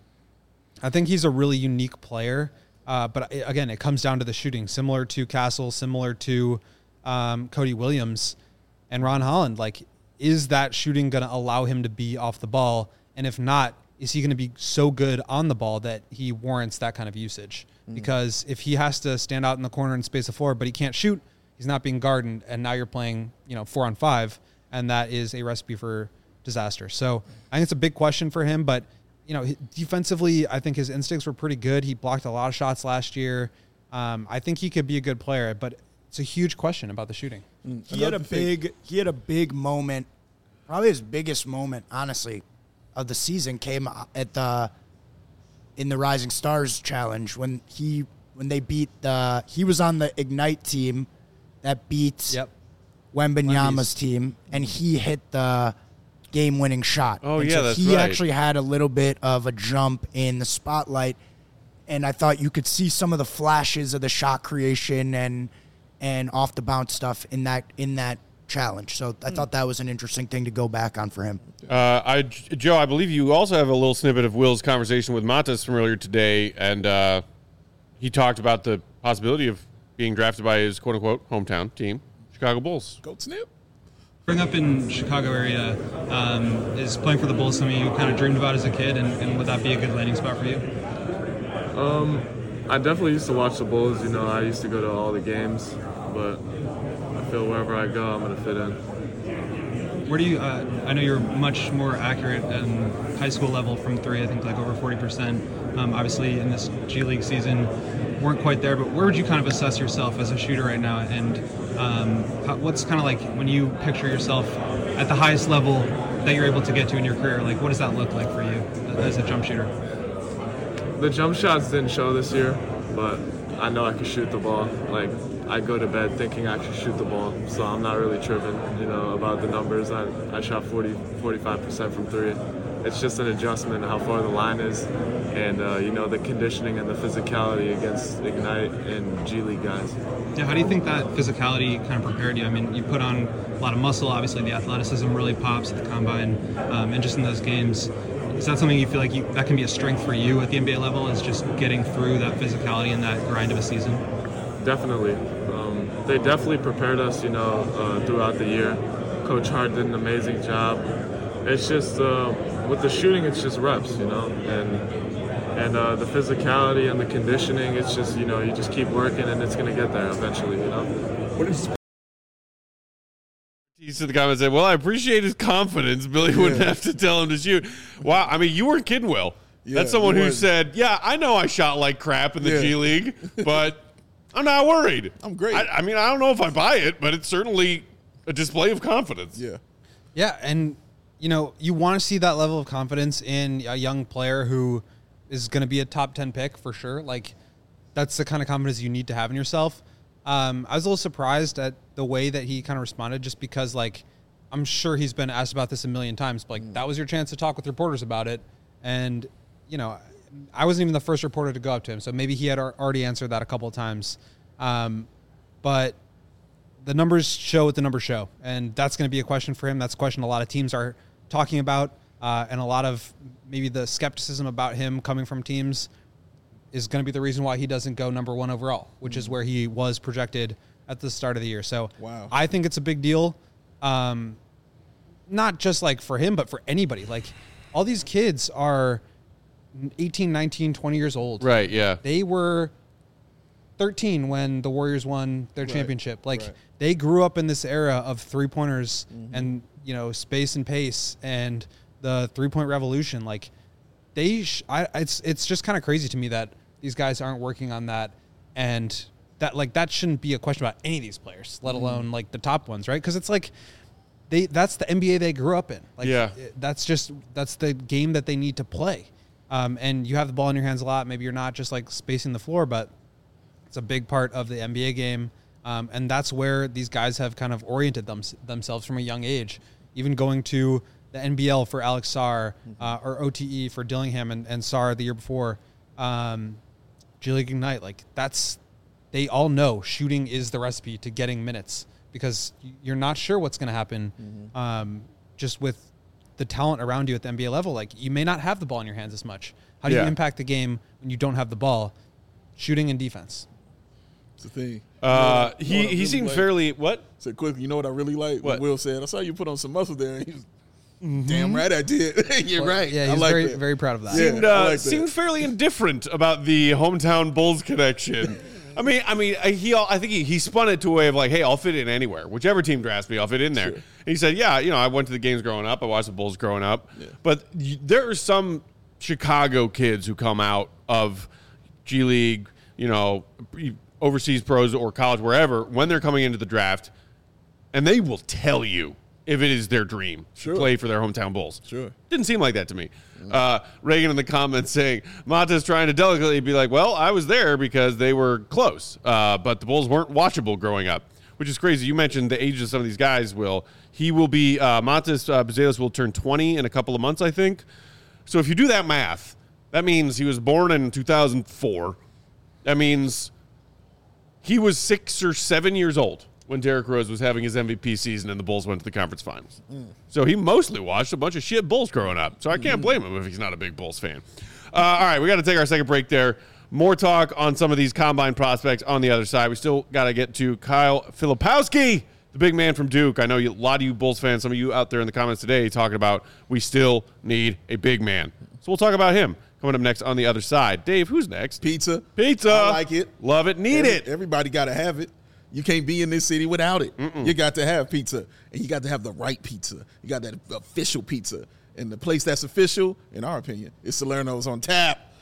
I think he's a really unique player. Uh, but it, again, it comes down to the shooting, similar to Castle, similar to um, Cody Williams and Ron Holland. Like, is that shooting going to allow him to be off the ball? And if not, is he going to be so good on the ball that he warrants that kind of usage? Mm. Because if he has to stand out in the corner and space the floor, but he can't shoot, he's not being guarded, and now you're playing, you know, four on five, and that is a recipe for disaster. So I think it's a big question for him, but, you know, defensively, I think his instincts were pretty good. He blocked a lot of shots last year. Um, I think he could be a good player, but it's a huge question about the shooting. He had a big, he had a big moment, probably his biggest moment, honestly, of the season came at the in the Rising Stars Challenge when he when they beat the he was on the Ignite team that beat yep. Wembanyama's team, and he hit the game-winning shot. Oh, and yeah, so that's he right. actually had a little bit of a jump in the spotlight, and I thought you could see some of the flashes of the shot creation and and off the bounce stuff in that in that challenge. So I thought that was an interesting thing to go back on for him. Uh, I, Joe, I believe you also have a little snippet of Will's conversation with Montas from earlier today, and uh, he talked about the possibility of being drafted by his quote-unquote hometown team, Chicago Bulls. Goat Snip. Growing up in Chicago area, um, is playing for the Bulls something you kind of dreamed about as a kid, and, and would that be a good landing spot for you? Um, I definitely used to watch the Bulls. You know, I used to go to all the games, but I feel wherever I go, I'm going to fit in. Where do you, uh, I know you're much more accurate in high school level from three, I think like over forty percent. Um, obviously in this G League season, weren't quite there, but where would you kind of assess yourself as a shooter right now? And um, how, what's kind of like when you picture yourself at the highest level that you're able to get to in your career, like what does that look like for you as a jump shooter? The jump shots didn't show this year, but I know I can shoot the ball. Like, I go to bed thinking I can shoot the ball, so I'm not really tripping, you know, about the numbers. I, I shot forty, forty-five percent from three, it's just an adjustment how far the line is, and uh, you know the conditioning and the physicality against Ignite and G League guys. Yeah, how do you think that physicality kind of prepared you? I mean, you put on a lot of muscle. Obviously, the athleticism really pops at the combine, um, and just in those games. Is that something you feel like you, that can be a strength for you at the N B A level? Is just getting through that physicality and that grind of a season? Definitely. Um, they definitely prepared us, you know, uh, throughout the year. Coach Hart did an amazing job. It's just uh, with the shooting, it's just reps, you know, and and uh, the physicality and the conditioning. It's just, you know, you just keep working and it's gonna get there eventually, you know. What is He's in the comments saying, well, I appreciate his confidence. Billy wouldn't Yeah. have to tell him to shoot. Wow. I mean, you weren't kidding, Will. Yeah, That's someone you who weren't. said, yeah, I know I shot like crap in the Yeah. G League, but I'm not worried. I'm great. I, I mean, I don't know if I buy it, but it's certainly a display of confidence. Yeah. Yeah, and you know, you want to see that level of confidence in a young player who is going to be a top ten pick for sure. Like, that's the kind of confidence you need to have in yourself. Um, I was a little surprised at the way that he kind of responded, just because, like, I'm sure he's been asked about this a million times. But, like, mm. that was your chance to talk with reporters about it, and you know, I wasn't even the first reporter to go up to him, so maybe he had already answered that a couple of times. Um, but the numbers show what the numbers show, and that's going to be a question for him. That's a question a lot of teams are talking about, uh, and a lot of maybe the skepticism about him coming from teams is going to be the reason why he doesn't go number one overall, which mm. is where he was projected at the start of the year. So wow. I think it's a big deal, um, not just like for him, but for anybody. Like, all these kids are eighteen, nineteen, twenty years old. Right, yeah. They were thirteen when the Warriors won their Right, championship. Like, right. they grew up in this era of three-pointers Mm-hmm. and, you know, space and pace and the three-point revolution. Like, they sh- I, it's it's just kind of crazy to me that these guys aren't working on that, and that, like, that shouldn't be a question about any of these players, let Mm-hmm. alone, like, the top ones, right? Because it's like they that's the N B A they grew up in. Like, Yeah. it- that's just that's the game that they need to play. Um, and you have the ball in your hands a lot. Maybe you're not just, like, spacing the floor, but it's a big part of the N B A game. Um, and that's where these guys have kind of oriented them, themselves from a young age. Even going to the N B L for Alex Sarr, uh, or O T E for Dillingham and, and Sarr the year before, um, G League Ignite. Like, that's, they all know shooting is the recipe to getting minutes, because you're not sure what's going to happen mm-hmm. um, just with the talent around you at the N B A level. Like, you may not have the ball in your hands as much. How do Yeah. you impact the game when you don't have the ball? Shooting and defense. It's the thing. Uh, You know he what I he really seemed like? fairly, what? Said quick, you know what I really like? What? Will said, I saw you put on some muscle there. And he was, damn right I did. You're right. Yeah, I he's like very, that. very proud of that. Yeah. Seemed, I uh, like that. seemed fairly indifferent about the hometown Bulls connection. I mean, I mean, he. I think he, he spun it to a way of like, hey, I'll fit in anywhere. Whichever team drafts me, I'll fit in there. Sure. And he said, yeah, you know, I went to the games growing up. I watched the Bulls growing up. Yeah. But y- there are some Chicago kids who come out of G League, you know, overseas pros or college, wherever, when they're coming into the draft, and they will tell you if it is their dream Sure. to play for their hometown Bulls. Sure. Didn't seem like that to me. Uh, Reagan in the comments saying, Mata's trying to delicately be like, well, I was there because they were close, uh, but the Bulls weren't watchable growing up, which is crazy. You mentioned the age of some of these guys, Will. He will be, uh, Matas uh, Bezelos will turn twenty in a couple of months, I think. So if you do that math, that means he was born in two thousand four. That means he was six or seven years old when Derrick Rose was having his M V P season and the Bulls went to the conference finals. Mm. So he mostly watched a bunch of shit Bulls growing up. So I can't blame him if he's not a big Bulls fan. Uh, all right, we got to take our second break there. More talk on some of these combine prospects on the other side. We still got to get to Kyle Filipowski, the big man from Duke. I know you, a lot of you Bulls fans, some of you out there in the comments today talking about we still need a big man. So we'll talk about him coming up next on the other side. Dave, who's next? Pizza. Pizza. I like it. Love it. Need Every, it. Everybody got to have it. You can't be in this city without it. Mm-mm. You got to have pizza, and you got to have the right pizza. You got that official pizza. And the place that's official, in our opinion, is Salerno's on tap.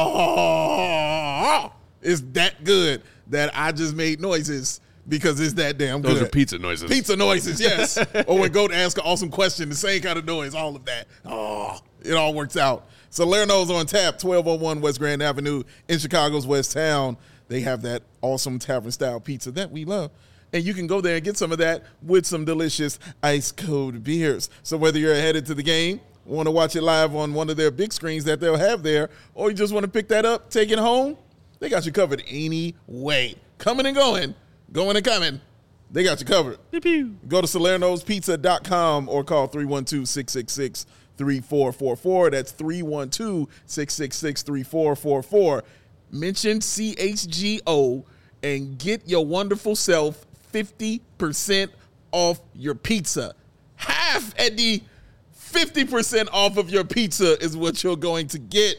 Oh, it's that good that I just made noises because it's that damn good. Those are pizza noises. Pizza noises, yes. Or when Goat asks an awesome question, the same kind of noise, all of that. Oh, it all works out. Salerno's on tap, twelve oh one West Grand Avenue in Chicago's West Town. They have that awesome tavern-style pizza that we love. And you can go there and get some of that with some delicious ice-cold beers. So whether you're headed to the game want to watch it live on one of their big screens that they'll have there, or you just want to pick that up, take it home, they got you covered anyway. Coming and going, going and coming, they got you covered. Pew-pew. Go to Salerno's Pizza dot com or call three one two, six six six, three four four four. That's three one two, six six six, three four four four. Mention C H G O and get your wonderful self fifty percent off your pizza. Half at the fifty percent off of your pizza is what you're going to get.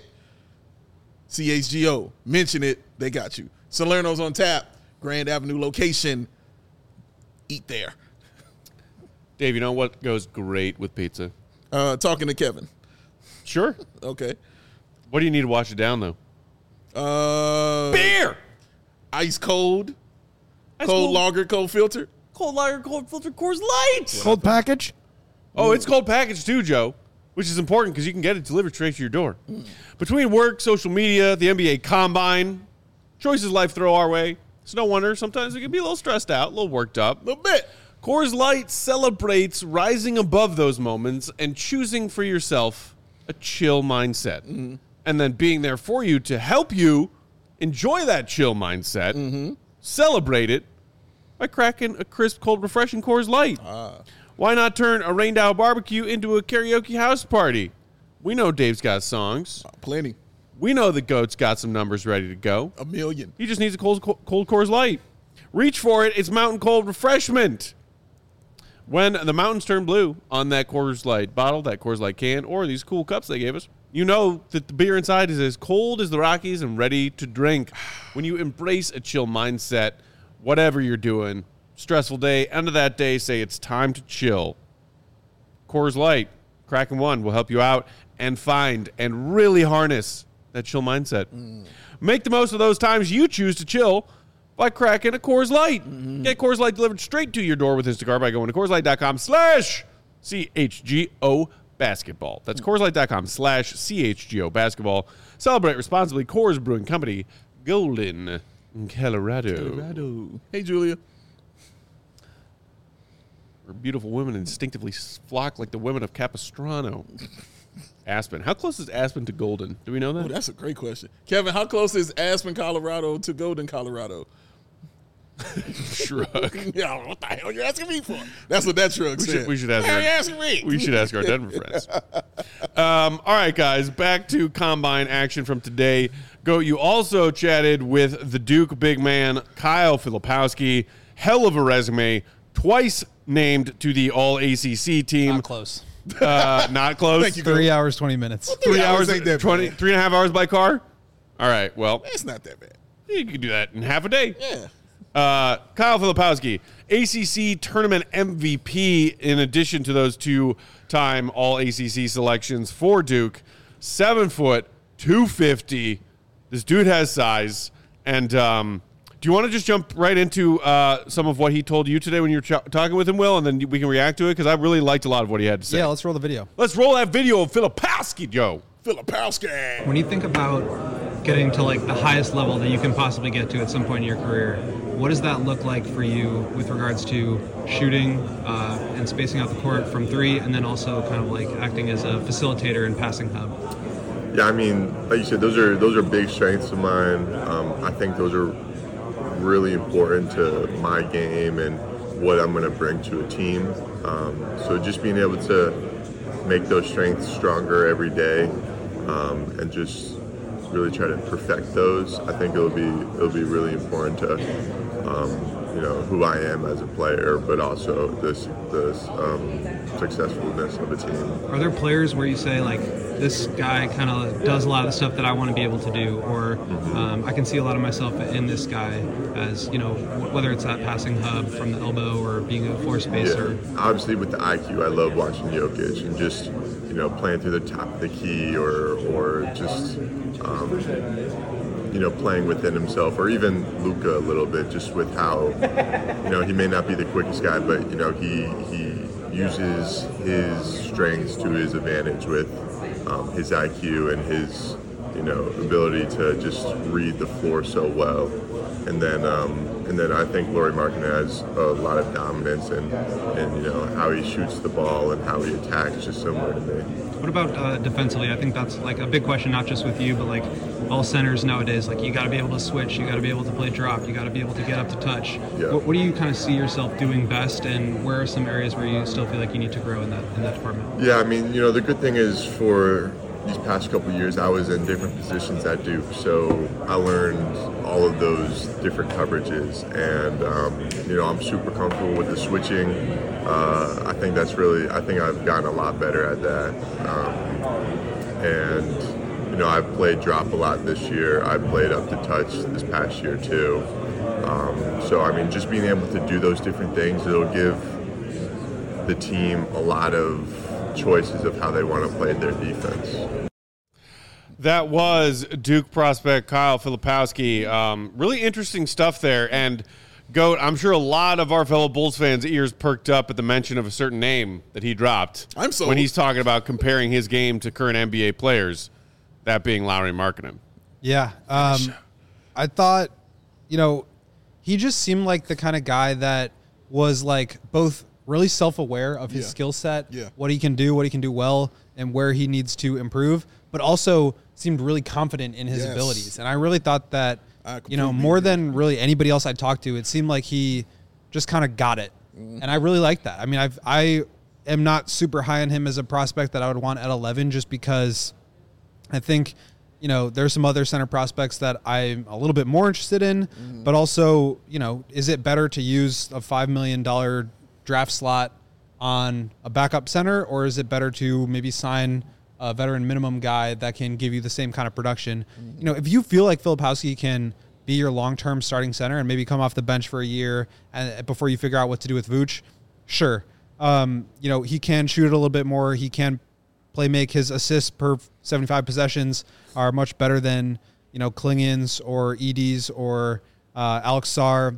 C H G O. Mention it. They got you. Salerno's on tap. Grand Avenue location. Eat there. Dave, you know what goes great with pizza? Uh, talking to Kevin. Sure. Okay. What do you need to wash it down, though? Uh, Beer! Ice cold. Ice cold cold. lager, cold filter. Cold lager, cold filter, Coors Light. Cold package? Oh, it's cold package too, Joe, which is important because you can get it delivered straight to your door. Between work, social media, the N B A Combine, choices life throw our way, it's no wonder sometimes we can be a little stressed out, a little worked up. A little bit. Coors Light celebrates rising above those moments and choosing for yourself a chill mindset. Mm-hmm. And then being there for you to help you enjoy that chill mindset, mm-hmm. celebrate it by cracking a crisp, cold, refreshing Coors Light. Ah. Why not turn a rain-down barbecue into a karaoke house party? We know Dave's got songs. Uh, plenty. We know the GOAT's got some numbers ready to go. A million. He just needs a cold, cold Coors Light. Reach for it. It's Mountain Cold Refreshment. When the mountains turn blue on that Coors Light bottle, that Coors Light can, or these cool cups they gave us, you know that the beer inside is as cold as the Rockies and ready to drink. When you embrace a chill mindset, whatever you're doing, stressful day, end of that day, say it's time to chill. Coors Light, Kraken One will help you out and find and really harness that chill mindset. Mm. Make the most of those times you choose to chill by cracking a Coors Light. Mm-hmm. Get Coors Light delivered straight to your door with Instacart by going to CoorsLight.com slash CHGO basketball. That's CoorsLight.com slash CHGO basketball. Celebrate responsibly. Coors Brewing Company, Golden, Colorado. Colorado. Hey, Julia. Where beautiful women instinctively flock like the women of Capistrano. Aspen. How close is Aspen to Golden? Do we know that? Oh, that's a great question. Kevin, how close is Aspen, Colorado to Golden, Colorado? Shrug. Yeah, what the hell are you asking me for? That's what that shrug we said. Should, we should ask How our, are you asking me? We should ask our Denver friends. Um, all right, guys, back to Combine action from today. Go. You also chatted with the Duke big man, Kyle Filipowski. Hell of a resume. Twice named to the All A C C team. Not close. Uh, not close. Thank you, Three Coach. hours, twenty minutes. Well, three, Three hours, hours ain't that twenty, bad. three and a half hours by car? All right, well, It's not that bad. you could do that in half a day. Yeah. Uh, Kyle Filipowski, A C C tournament M V P, in addition to those two-time All A C C selections for Duke. Seven foot, two fifty. This dude has size. And um, do you want to just jump right into uh, some of what he told you today when you were ch- talking with him, Will, and then we can react to it? Because I really liked a lot of what he had to say. Yeah, let's roll the video. Let's roll that video of Filipowski, Joe. Filipowski. When you think about getting to like the highest level that you can possibly get to at some point in your career, what does that look like for you with regards to shooting uh, and spacing out the court from three, and then also kind of like acting as a facilitator and passing hub? Yeah, I mean, like you said, those are those are big strengths of mine. Um, I think those are really important to my game and what I'm going to bring to a team. Um, so just being able to make those strengths stronger every day um, and just really try to perfect those, I think it'll be it'll be really important to um, you know who I am as a player, but also this this um, successfulness of a team. Are there players where you say like, this guy kind of does a lot of the stuff that I want to be able to do, or um, I can see a lot of myself in this guy as, you know, whether it's that passing hub from the elbow or being a floor spacer? Yeah, obviously with the I Q, I love watching Jokic and just, you know, playing through the top of the key or, or just, um, you know, playing within himself, or even Luka a little bit, just with how, you know, he may not be the quickest guy, but, you know, he, he uses his strengths to his advantage with Um, his I Q and his, you know, ability to just read the floor so well. And then, um, and then I think Lauri Markkanen has a lot of dominance and, and you know how he shoots the ball and how he attacks, just similar to me. What about uh, defensively? I think that's like a big question, not just with you, but like all centers nowadays. Like you got to be able to switch, you got to be able to play drop, you got to be able to get up to touch. Yeah. What, what do you kind of see yourself doing best, and where are some areas where you still feel like you need to grow in that in that department? Yeah, I mean, you know, the good thing is for these past couple of years, I was in different positions at Duke, so I learned all of those different coverages, and um, you know, I'm super comfortable with the switching. Uh, I think that's really, I think I've gotten a lot better at that, um, and you know, I've played drop a lot this year. I played up to touch this past year too. Um, so I mean, just being able to do those different things, it'll give the team a lot of choices of how they want to play their defense. That was Duke prospect Kyle Filipowski. Um, really interesting stuff there. And, Goat, I'm sure a lot of our fellow Bulls fans' ears perked up at the mention of a certain name that he dropped. I'm so when he's talking about comparing his game to current N B A players, that being Lauri Markkanen. Yeah. Um, I thought, you know, he just seemed like the kind of guy that was like both really self-aware of his Yeah. skill set, Yeah. what he can do, what he can do well, and where he needs to improve, but also seemed really confident in his Yes. abilities. And I really thought that, I you know, completely more agree. than really anybody else I talked to, it seemed like he just kind of got it. Mm-hmm. And I really like that. I mean, I've, I am not super high on him as a prospect that I would want at eleven, just because I think, you know, there's some other center prospects that I'm a little bit more interested in, Mm-hmm. but also, you know, is it better to use a five million dollars draft slot on a backup center, or is it better to maybe sign a veteran minimum guy that can give you the same kind of production? Mm-hmm. You know, if you feel like Filipowski can be your long-term starting center and maybe come off the bench for a year and before you figure out what to do with Vooch, sure. Um, you know, he can shoot it a little bit more. He can play make. His assists per seventy-five possessions are much better than, you know, Klingon's or Edie's or uh, Alex Sarr.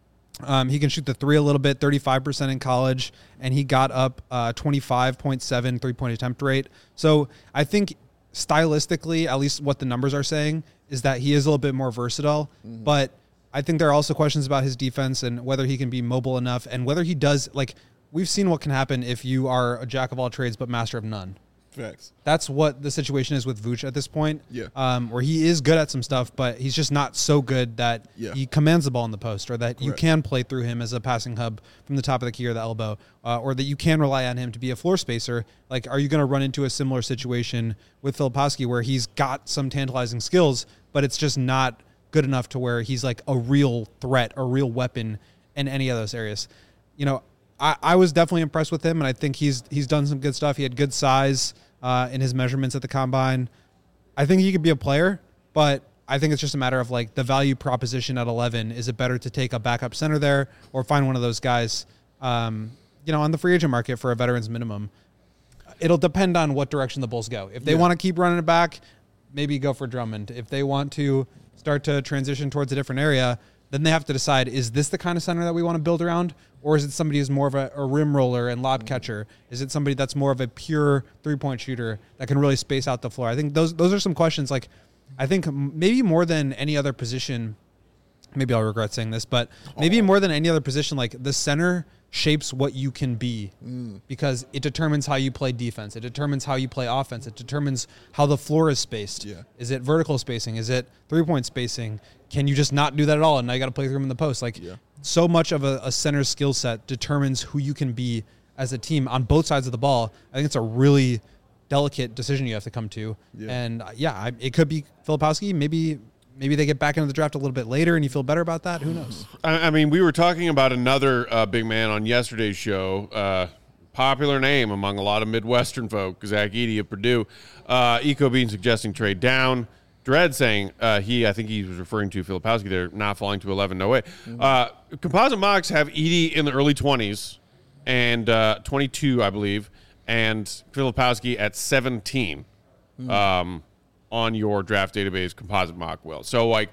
Um, he can shoot the three a little bit, thirty-five percent in college, and he got up uh, twenty-five point seven three-point attempt rate. So I think stylistically, at least what the numbers are saying, is that he is a little bit more versatile. Mm-hmm. But I think there are also questions about his defense and whether he can be mobile enough and whether he does, like, we've seen what can happen if you are a jack of all trades but master of none. Facts. That's what the situation is with Vooch at this point. Yeah. Um, where he is good at some stuff, but he's just not so good that Yeah. he commands the ball in the post, or that you Correct. can play through him as a passing hub from the top of the key or the elbow, uh, or that you can rely on him to be a floor spacer. Like, are you going to run into a similar situation with Filipowski where he's got some tantalizing skills, but it's just not good enough to where he's like a real threat, a real weapon in any of those areas? You know, I, I was definitely impressed with him, and I think he's he's done some good stuff. He had good size uh, in his measurements at the combine. I think he could be a player, but I think it's just a matter of like the value proposition at eleven. Is it better to take a backup center there or find one of those guys, um, you know, on the free agent market for a veteran's minimum? It'll depend on what direction the Bulls go. If they Yeah. want to keep running it back, maybe go for Drummond. If they want to start to transition towards a different area, then they have to decide, is this the kind of center that we want to build around? Or is it somebody who's more of a, a rim roller and lob catcher? Is it somebody that's more of a pure three-point shooter that can really space out the floor? I think those those are some questions. Like, I think maybe more than any other position, maybe I'll regret saying this, but maybe more than any other position, like the center shapes what you can be mm. because it determines how you play defense. It determines how you play offense. It determines how the floor is spaced. Yeah. Is it vertical spacing? Is it three-point spacing? Can you just not do that at all? And now you got to play through him in the post. Like, yeah. so much of a, a center's skill set determines who you can be as a team on both sides of the ball. I think it's a really delicate decision you have to come to. Yeah. And uh, yeah, I, it could be Filipowski. Maybe maybe they get back into the draft a little bit later and you feel better about that. Who knows? I, I mean, we were talking about another uh, big man on yesterday's show. Uh, popular name among a lot of Midwestern folk, Zach Edey of Purdue. Uh, Eco Bean suggesting trade down. Dredd saying uh, he, I think he was referring to Filipowski there, not falling to eleven. No way. Mm-hmm. Uh, composite mocks have Edey in the early twenties and uh, twenty-two, I believe, and Filipowski at seventeen mm-hmm. um, on your draft database composite mock will. So, like,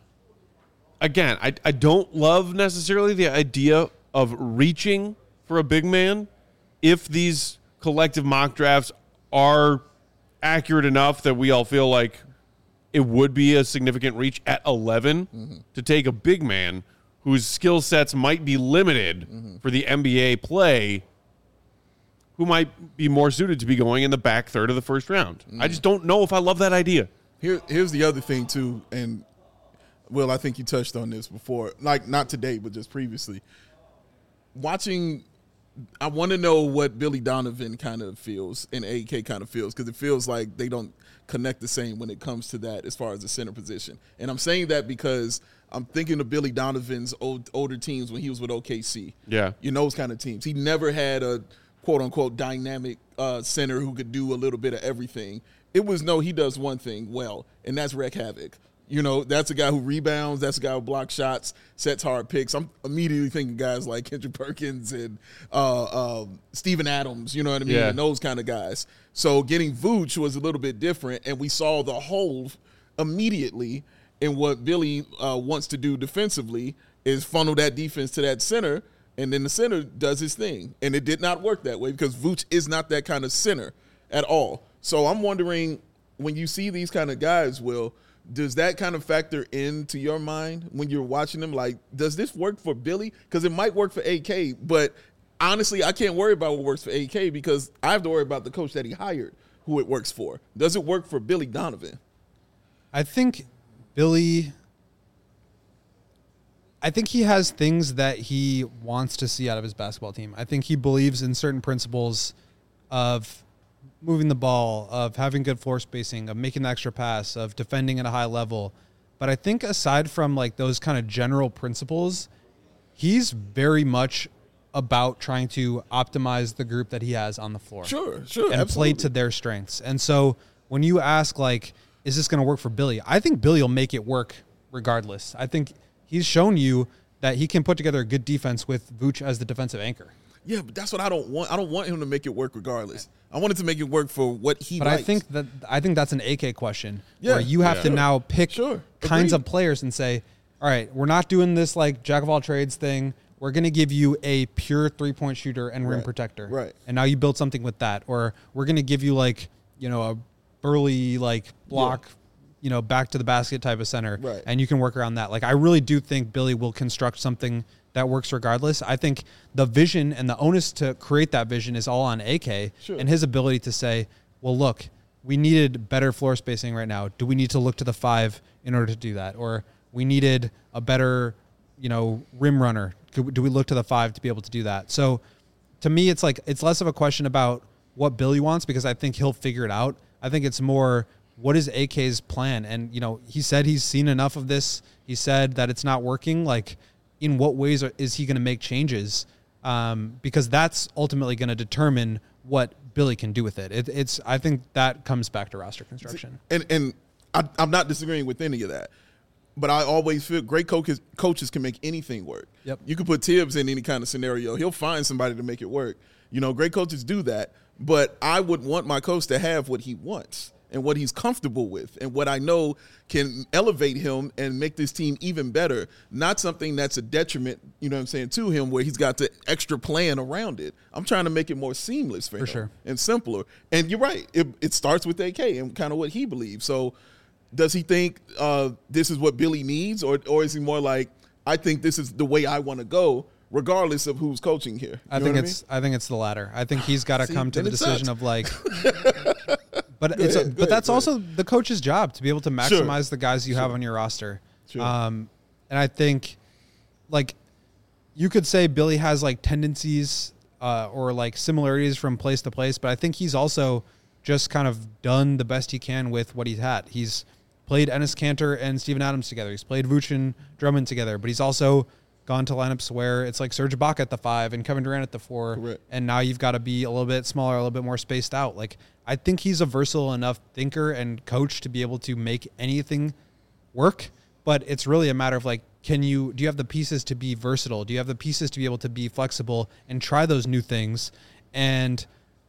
again, I, I don't love necessarily the idea of reaching for a big man if these collective mock drafts are accurate enough that we all feel like it would be a significant reach at eleven mm-hmm. to take a big man whose skill sets might be limited mm-hmm. for the N B A play, who might be more suited to be going in the back third of the first round. Mm-hmm. I just don't know if I love that idea. Here, here's the other thing, too, and, Will, I think you touched on this before, like not today, but just previously. Watching, I want to know what Billy Donovan kind of feels and A K kind of feels, because it feels like they don't connect the same when it comes to that as far as the center position. And I'm saying that because I'm thinking of Billy Donovan's old, older teams when he was with O K C. Yeah. You know, those kind of teams. He never had a quote-unquote dynamic uh, center who could do a little bit of everything. It was, no, he does one thing well, and that's wreak havoc. You know, that's a guy who rebounds. That's a guy who blocks shots, sets hard picks. I'm immediately thinking guys like Kendrick Perkins and uh, um, Steven Adams, you know what I mean, yeah. and those kind of guys. So getting Vooch was a little bit different, and we saw the hole immediately in what Billy uh, wants to do defensively is funnel that defense to that center, and then the center does his thing. And it did not work that way because Vooch is not that kind of center at all. So I'm wondering, when you see these kind of guys, Will, does that kind of factor into your mind when you're watching them? Like, does this work for Billy? Because it might work for A K, but honestly, I can't worry about what works for A K because I have to worry about the coach that he hired, who it works for. Does it work for Billy Donovan? I think Billy, I think he has things that he wants to see out of his basketball team. I think he believes in certain principles of moving the ball, of having good floor spacing, of making the extra pass, of defending at a high level. But I think aside from like those kind of general principles, he's very much about trying to optimize the group that he has on the floor. Sure, sure, and absolutely. play to their strengths. And so when you ask, like, is this going to work for Billy? I think Billy will make it work regardless. I think he's shown you that he can put together a good defense with Vooch as the defensive anchor. Yeah, but that's what I don't want. I don't want him to make it work regardless. I want it to make it work for what he But likes. I think that I think that's an A K question Yeah. where you have Yeah. to Sure. now pick Sure. kinds Agreed. of players and say, all right, we're not doing this like jack of all trades thing. We're going to give you a pure three-point shooter and rim Right. protector. Right. And now you build something with that. Or we're going to give you like, you know, a burly like block, Yeah. you know, back to the basket type of center. Right. And you can work around that. Like, I really do think Billy will construct something that works regardless. I think the vision and the onus to create that vision is all on A K Sure. and his ability to say, well, look, we needed better floor spacing right now. Do we need to look to the five in order to do that? Or we needed a better, you know, rim runner. Do we look to the five to be able to do that? So to me, it's like, it's less of a question about what Billy wants because I think he'll figure it out. I think it's more, what is A K's plan? And, you know, he said he's seen enough of this. He said that it's not working. Like, in what ways are, is he going to make changes? Um, because that's ultimately going to determine what Billy can do with it. it. It's I think that comes back to roster construction. And and I, I'm not disagreeing with any of that, but I always feel great coaches coaches can make anything work. Yep. You can put Tibbs in any kind of scenario; he'll find somebody to make it work. You know, great coaches do that, but I would want my coach to have what he wants and what he's comfortable with and what I know can elevate him and make this team even better, not something that's a detriment, you know what I'm saying, to him where he's got the extra plan around it. I'm trying to make it more seamless for, For him sure. and simpler. And you're right. It, it starts with A K and kind of what he believes. So does he think uh, this is what Billy needs, or or is he more like, I think this is the way I want to go, regardless of who's coaching here? You I know think what it's I, think it's the latter. I think he's got to See, come to then the it decision sucks. of like. But Go it's a, ahead, go but ahead, that's go also the coach's job to be able to maximize the guys you have on your roster. Sure. Um, and I think, like, you could say Billy has like tendencies uh, or like similarities from place to place, but I think he's also just kind of done the best he can with what he's had. He's played Enes Kanter and Steven Adams together. He's played Vooch and Drummond together, but he's also gone to lineups where it's like Serge Ibaka at the five and Kevin Durant at the four. Correct. And now you've got to be a little bit smaller, a little bit more spaced out. Like, I think he's a versatile enough thinker and coach to be able to make anything work, but it's really a matter of like, can you, do you have the pieces to be versatile? Do you have the pieces to be able to be flexible and try those new things? And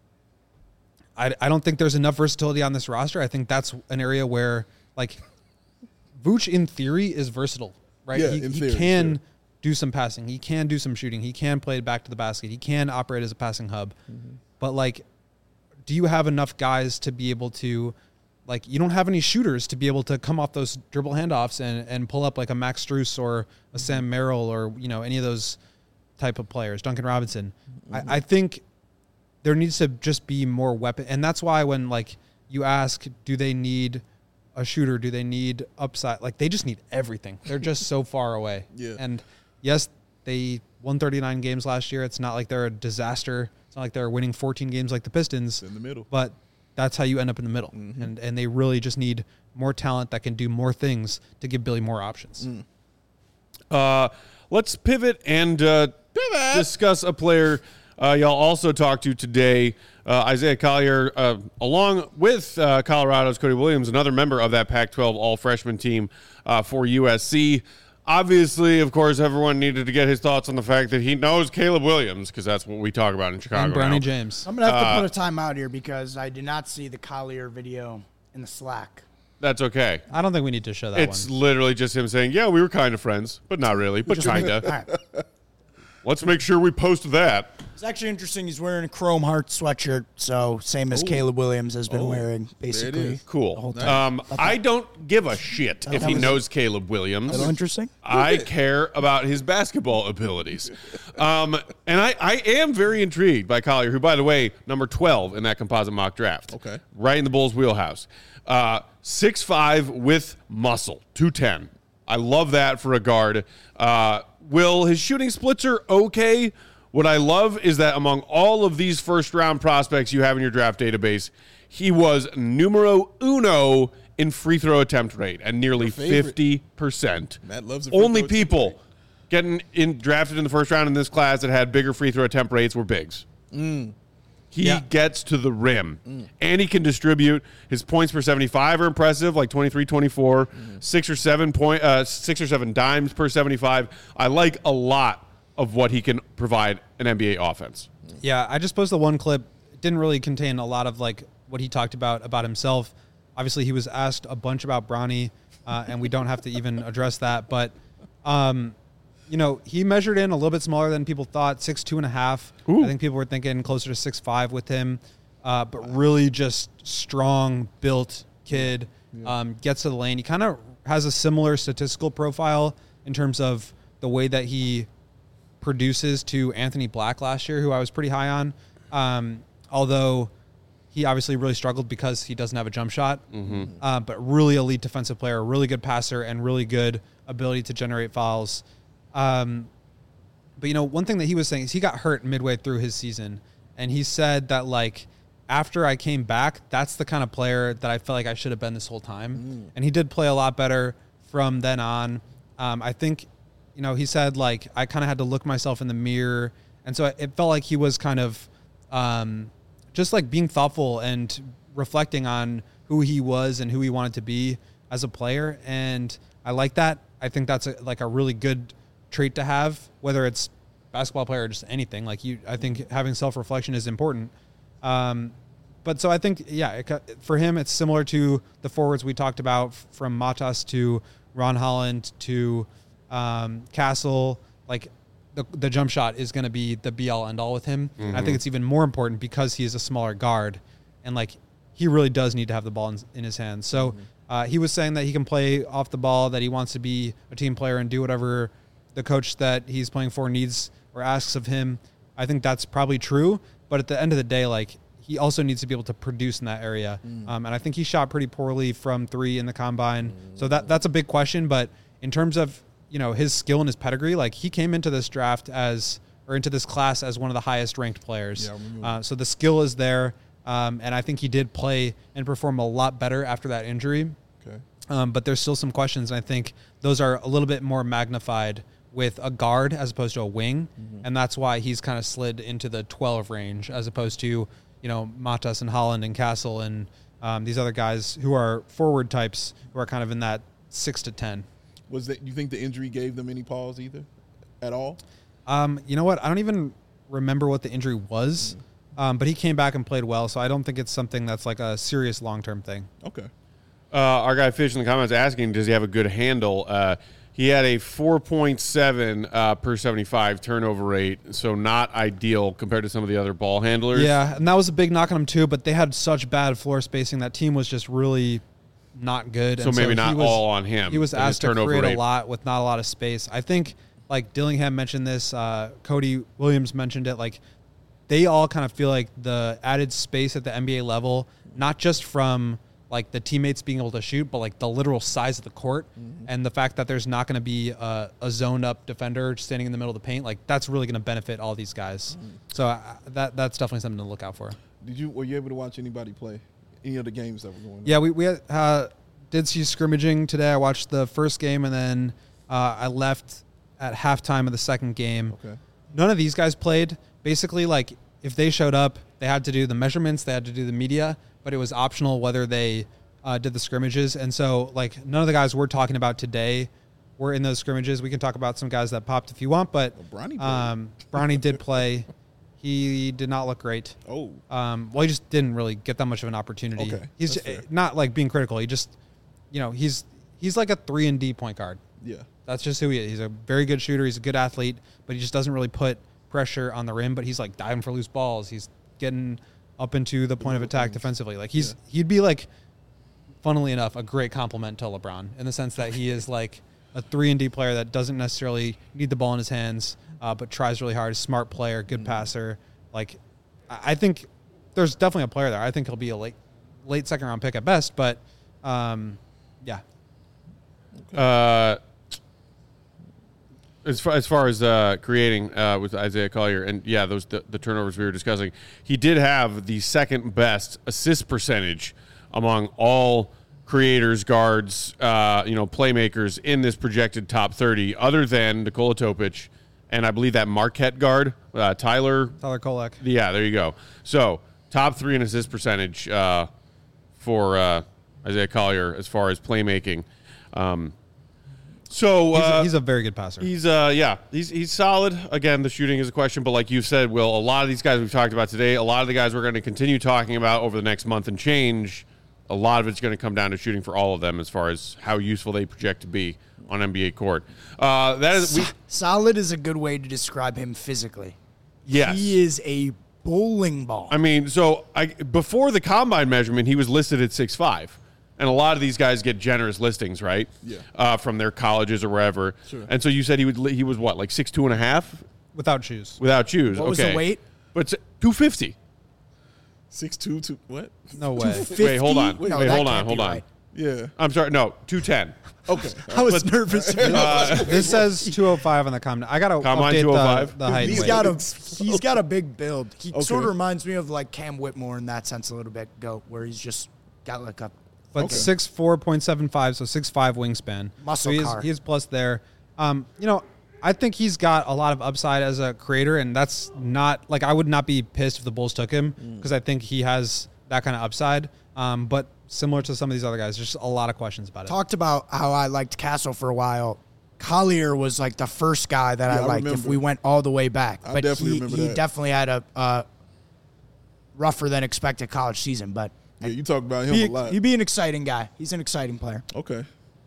I, I don't think there's enough versatility on this roster. I think that's an area where, like, Vooch in theory is versatile, right? Yeah, he in he theory, can sure. do some passing. He can do some shooting. He can play it back to the basket. He can operate as a passing hub. Mm-hmm. But, like, do you have enough guys to be able to like you don't have any shooters to be able to come off those dribble handoffs and, and pull up like a Max Strus or a Sam Merrill or, you know, any of those type of players, Duncan Robinson. Mm-hmm. I, I think there needs to just be more weapon. And that's why when like you ask, do they need a shooter? Do they need upside? Like they just need everything. They're just so far away. Yeah. And yes, they won thirty-nine games last year. It's not like they're a disaster. It's not like they're winning fourteen games like the Pistons. It's in the middle. But that's how you end up in the middle. Mm-hmm. And and they really just need more talent that can do more things to give Billy more options. Mm. Uh, let's pivot and uh, pivot. discuss a player uh, y'all also talked to today, uh, Isaiah Collier, uh, along with uh, Colorado's Cody Williams, another member of that Pac twelve all-freshman team uh, for U S C. Obviously, of course, everyone needed to get his thoughts on the fact that he knows Caleb Williams, because that's what we talk about in Chicago and Bronny now. James. I'm going to have to Uh, put a timeout here because I did not see the Collier video in the Slack. That's okay. I don't think we need to show that It's one. literally just him saying, yeah, we were kind of friends, but not really, but Just- kind All of. right. Let's make sure we post that. It's actually interesting. He's wearing a Chrome Heart sweatshirt, so same as Ooh. Caleb Williams has been Oh, wearing, basically. is. Cool. Nice. Um, I don't give a shit if that he was- knows Caleb Williams. A little interesting. I care about his basketball abilities. Um, and I, I am very intrigued by Collier, who, by the way, number twelve in that composite mock draft. Okay. Right in the Bulls' wheelhouse. Uh, six five with muscle, two ten. I love that for a guard. Uh, Will, his shooting splits are okay. What I love is that among all of these first-round prospects you have in your draft database, he was numero uno in free throw attempt rate at nearly favorite. fifty percent. Matt loves a free Only throw attempt people rate. getting in drafted in the first round in this class that had bigger free throw attempt rates were bigs. Mm. He Yeah. gets to the rim, and he can distribute. His points per seventy-five are impressive, like twenty-three, twenty-four, six or seven point, uh, six or seven dimes per seventy-five. I like a lot of what he can provide an N B A offense. Yeah, I just posted one clip. It didn't really contain a lot of like what he talked about about himself. Obviously, he was asked a bunch about Bronny, uh, and we don't have to even address that. But, um, you know, he measured in a little bit smaller than people thought, six two and a half. Ooh. I think people were thinking closer to six five with him, uh, but really just strong built kid. Um, gets to the lane. He kind of has a similar statistical profile in terms of the way that he produces to Anthony Black last year, who I was pretty high on. Um, although he obviously really struggled because he doesn't have a jump shot, mm-hmm. uh, but really elite defensive player, really good passer, and really good ability to generate fouls. Um, but, you know, one thing that he was saying is he got hurt midway through his season, and he said that, like, after I came back, that's the kind of player that I felt like I should have been this whole time. Mm. And he did play a lot better from then on. Um, I think, you know, he said, like, I kind of had to look myself in the mirror. And so it felt like he was kind of um, just, like, being thoughtful and reflecting on who he was and who he wanted to be as a player. And I like that. I think that's, a, like, a really good trait to have, whether it's basketball player or just anything. Like, you, I think having self-reflection is important. Um, but so I think, yeah, it, for him, it's similar to the forwards we talked about, from Matas to Ron Holland to um, Castle. Like, the the jump shot is going to be the be-all, end-all with him. Mm-hmm. And I think it's even more important because he is a smaller guard, and, like, he really does need to have the ball in, in his hands. So mm-hmm. uh, he was saying that he can play off the ball, that he wants to be a team player and do whatever the coach that he's playing for needs or asks of him. I think that's probably true. But at the end of the day, like, he also needs to be able to produce in that area. Mm. Um, and I think he shot pretty poorly from three in the combine. Mm. So that that's a big question. But in terms of, you know, his skill and his pedigree, like, he came into this draft as, or into this class as one of the highest ranked players. Yeah, uh, so the skill is there. Um, and I think he did play and perform a lot better after that injury. Okay. Um, but there's still some questions. And I think those are a little bit more magnified with a guard as opposed to a wing. Mm-hmm. And that's why he's kind of slid into the twelve range as opposed to, you know, Matas and Holland and Castle and um, these other guys who are forward types who are kind of in that six to ten. Was that, you think the injury gave them any pause either at all? Um, you know what? I don't even remember what the injury was, mm-hmm. um, but he came back and played well. So I don't think it's something that's like a serious long-term thing. Okay. Uh, our guy Fish in the comments asking, does he have a good handle? Uh, He had a four point seven uh, per seventy-five turnover rate, so not ideal compared to some of the other ball handlers. Yeah, and that was a big knock on him too, but they had such bad floor spacing. That team was just really not good. So and maybe he not was, all on him. He was and his asked to turnover create rate. a lot with not a lot of space. I think, like Dillingham mentioned this, uh, Cody Williams mentioned it, like they all kind of feel like the added space at the N B A level, not just from like the teammates being able to shoot, but like the literal size of the court mm-hmm. and the fact that there's not going to be a, a zoned up defender standing in the middle of the paint. Like that's really going to benefit all these guys. Mm-hmm. So uh, that that's definitely something to look out for. Did you were you able to watch anybody play any of the games that were going on? Yeah, we we uh, did see scrimmaging today. I watched the first game and then uh, I left at halftime of the second game. Okay. None of these guys played. Basically, like if they showed up, they had to do the measurements, they had to do the media, but it was optional whether they uh, did the scrimmages. And so, like, none of the guys we're talking about today were in those scrimmages. We can talk about some guys that popped if you want, but well, Bronny, um, Bronny did play. He did not look great. Oh. Um, well, he just didn't really get that much of an opportunity. Okay, He's that's fair. not, like, being critical. He just, you know, he's he's like a three and D point guard. Yeah. That's just who he is. He's a very good shooter. He's a good athlete, but he just doesn't really put pressure on the rim. But he's, like, diving for loose balls. He's getting up into the point of attack defensively. Like he's yeah. he'd be like, funnily enough, a great compliment to LeBron in the sense that he is like a three and D player that doesn't necessarily need the ball in his hands, uh, but tries really hard. Smart player, good mm-hmm. passer. Like I think there's definitely a player there. I think he'll be a late late second round pick at best, but um, yeah. Uh, As far, as far as uh, creating uh, with Isaiah Collier, and yeah, those the, the turnovers we were discussing, he did have the second best assist percentage among all creators, guards, uh, you know, playmakers in this projected top thirty, other than Nikola Topic, and I believe that Marquette guard, uh, Tyler. Tyler Kolek. Yeah, there you go. So top three in assist percentage uh, for uh, Isaiah Collier as far as playmaking. Um, So he's, uh, a, he's a very good passer. He's uh yeah he's he's solid. Again, the shooting is a question, but like you said, Will, a lot of these guys we've talked about today, a lot of the guys we're going to continue talking about over the next month and change. A lot of it's going to come down to shooting for all of them as far as how useful they project to be on N B A court. Uh, that is we, solid is a good way to describe him physically. Yes, he is a bowling ball. I mean, so I before the combine measurement, he was listed at six five. And a lot of these guys get generous listings, right? Yeah. Uh, from their colleges or wherever. Sure. And so you said he would. He was what, like six two and a half, without shoes. without shoes. What okay. was the weight? But two fifty. Six two two what? No way. Wait, hold on. Wait, Wait, no, that hold on. can't Hold be on. right. Yeah. I'm sorry. No, two ten. Okay. I was nervous. This says two oh five on the combine. I got to Combine update two oh five? the, the height. He's and got weight. a he's got a big build. He Okay. sort of reminds me of like Cam Whitmore in that sense a little bit. Go where he's just got like a But Okay. six four point seven five, so six five wingspan. Muscle so he is, car. he is plus there. Um, you know, I think he's got a lot of upside as a creator, and that's not like I would not be pissed if the Bulls took him because I think he has that kind of upside. Um, but similar to some of these other guys, there's just a lot of questions about it. talked about how I liked Castle for a while. Collier was like the first guy that Yeah, I I liked if remember. we went all the way back. I but definitely he, remember he that. definitely had a uh, rougher than expected college season. But Yeah, you talk about him he, a lot. he'd be an exciting guy. He's an exciting player. Okay.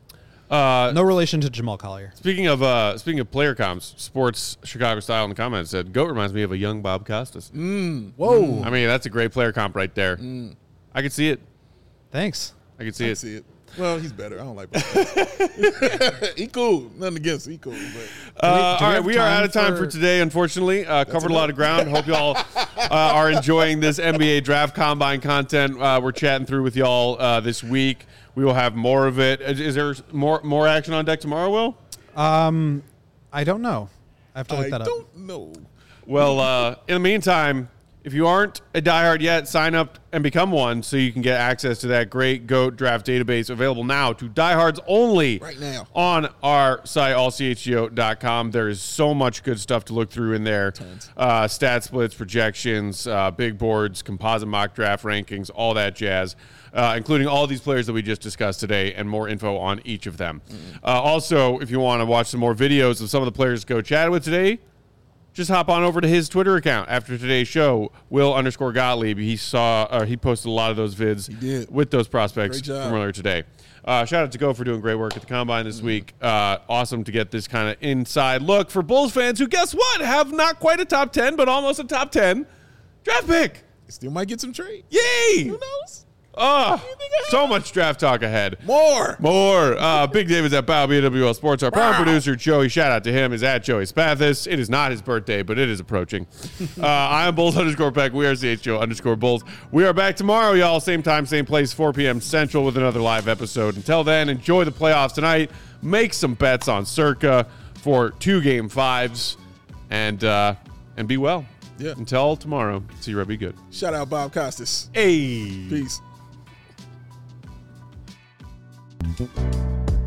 Uh, No relation to Jamal Collier. Speaking of uh, speaking of player comps, Sports Chicago Style in the comments said Goat reminds me of a young Bob Costas. Whoa. I mean, that's a great player comp right there. I could see it. Thanks. I could see I it. see it. Well, he's better. I don't like Bob. He cool. Nothing against him. He cool. But Uh, do we all right, have we are time out of time for, for- today, unfortunately. Uh, covered a lot of ground. Hope y'all uh, are enjoying this N B A Draft Combine content uh, we're chatting through with y'all uh, this week. We will have more of it. Is, is there more more action on deck tomorrow, Will? Um, I don't know. I have to look I that up. don't know. Well, uh, in the meantime, if you aren't a diehard yet, sign up and become one so you can get access to that great GOAT draft database available now to diehards only Right now. on our site, all c h g o dot com. There is so much good stuff to look through in there. Uh, stat splits, projections, uh, big boards, composite mock draft rankings, all that jazz, uh, including all these players that we just discussed today and more info on each of them. Uh, also, if you want to watch some more videos of some of the players Go chatted with today, just hop on over to his Twitter account after today's show, Will underscore Gottlieb. He saw, uh, he posted a lot of those vids He did. with those prospects Great job. from earlier today. Uh, shout out to Go for doing great work at the Combine this week. Uh, awesome to get this kind of inside look for Bulls fans who, guess what, have not quite a top ten, but almost a top ten draft pick. Still might get some trade. Yay! Who knows? Oh, so much draft talk ahead. More. More. Uh, Big David's at Bow, B W L Sports. Our proud producer, Joey, shout out to him, is at Joey Spathis. It is not his birthday, but it is approaching. uh, I am Bulls underscore Peck. We are C H O underscore Bulls. We are back tomorrow, y'all. Same time, same place, four p.m. Central with another live episode. Until then, enjoy the playoffs tonight. Make some bets on Circa for two game fives. And, uh, and be well. Yeah. Until tomorrow. See you, Red. Be good. Shout out Bob Costas. Hey. Peace.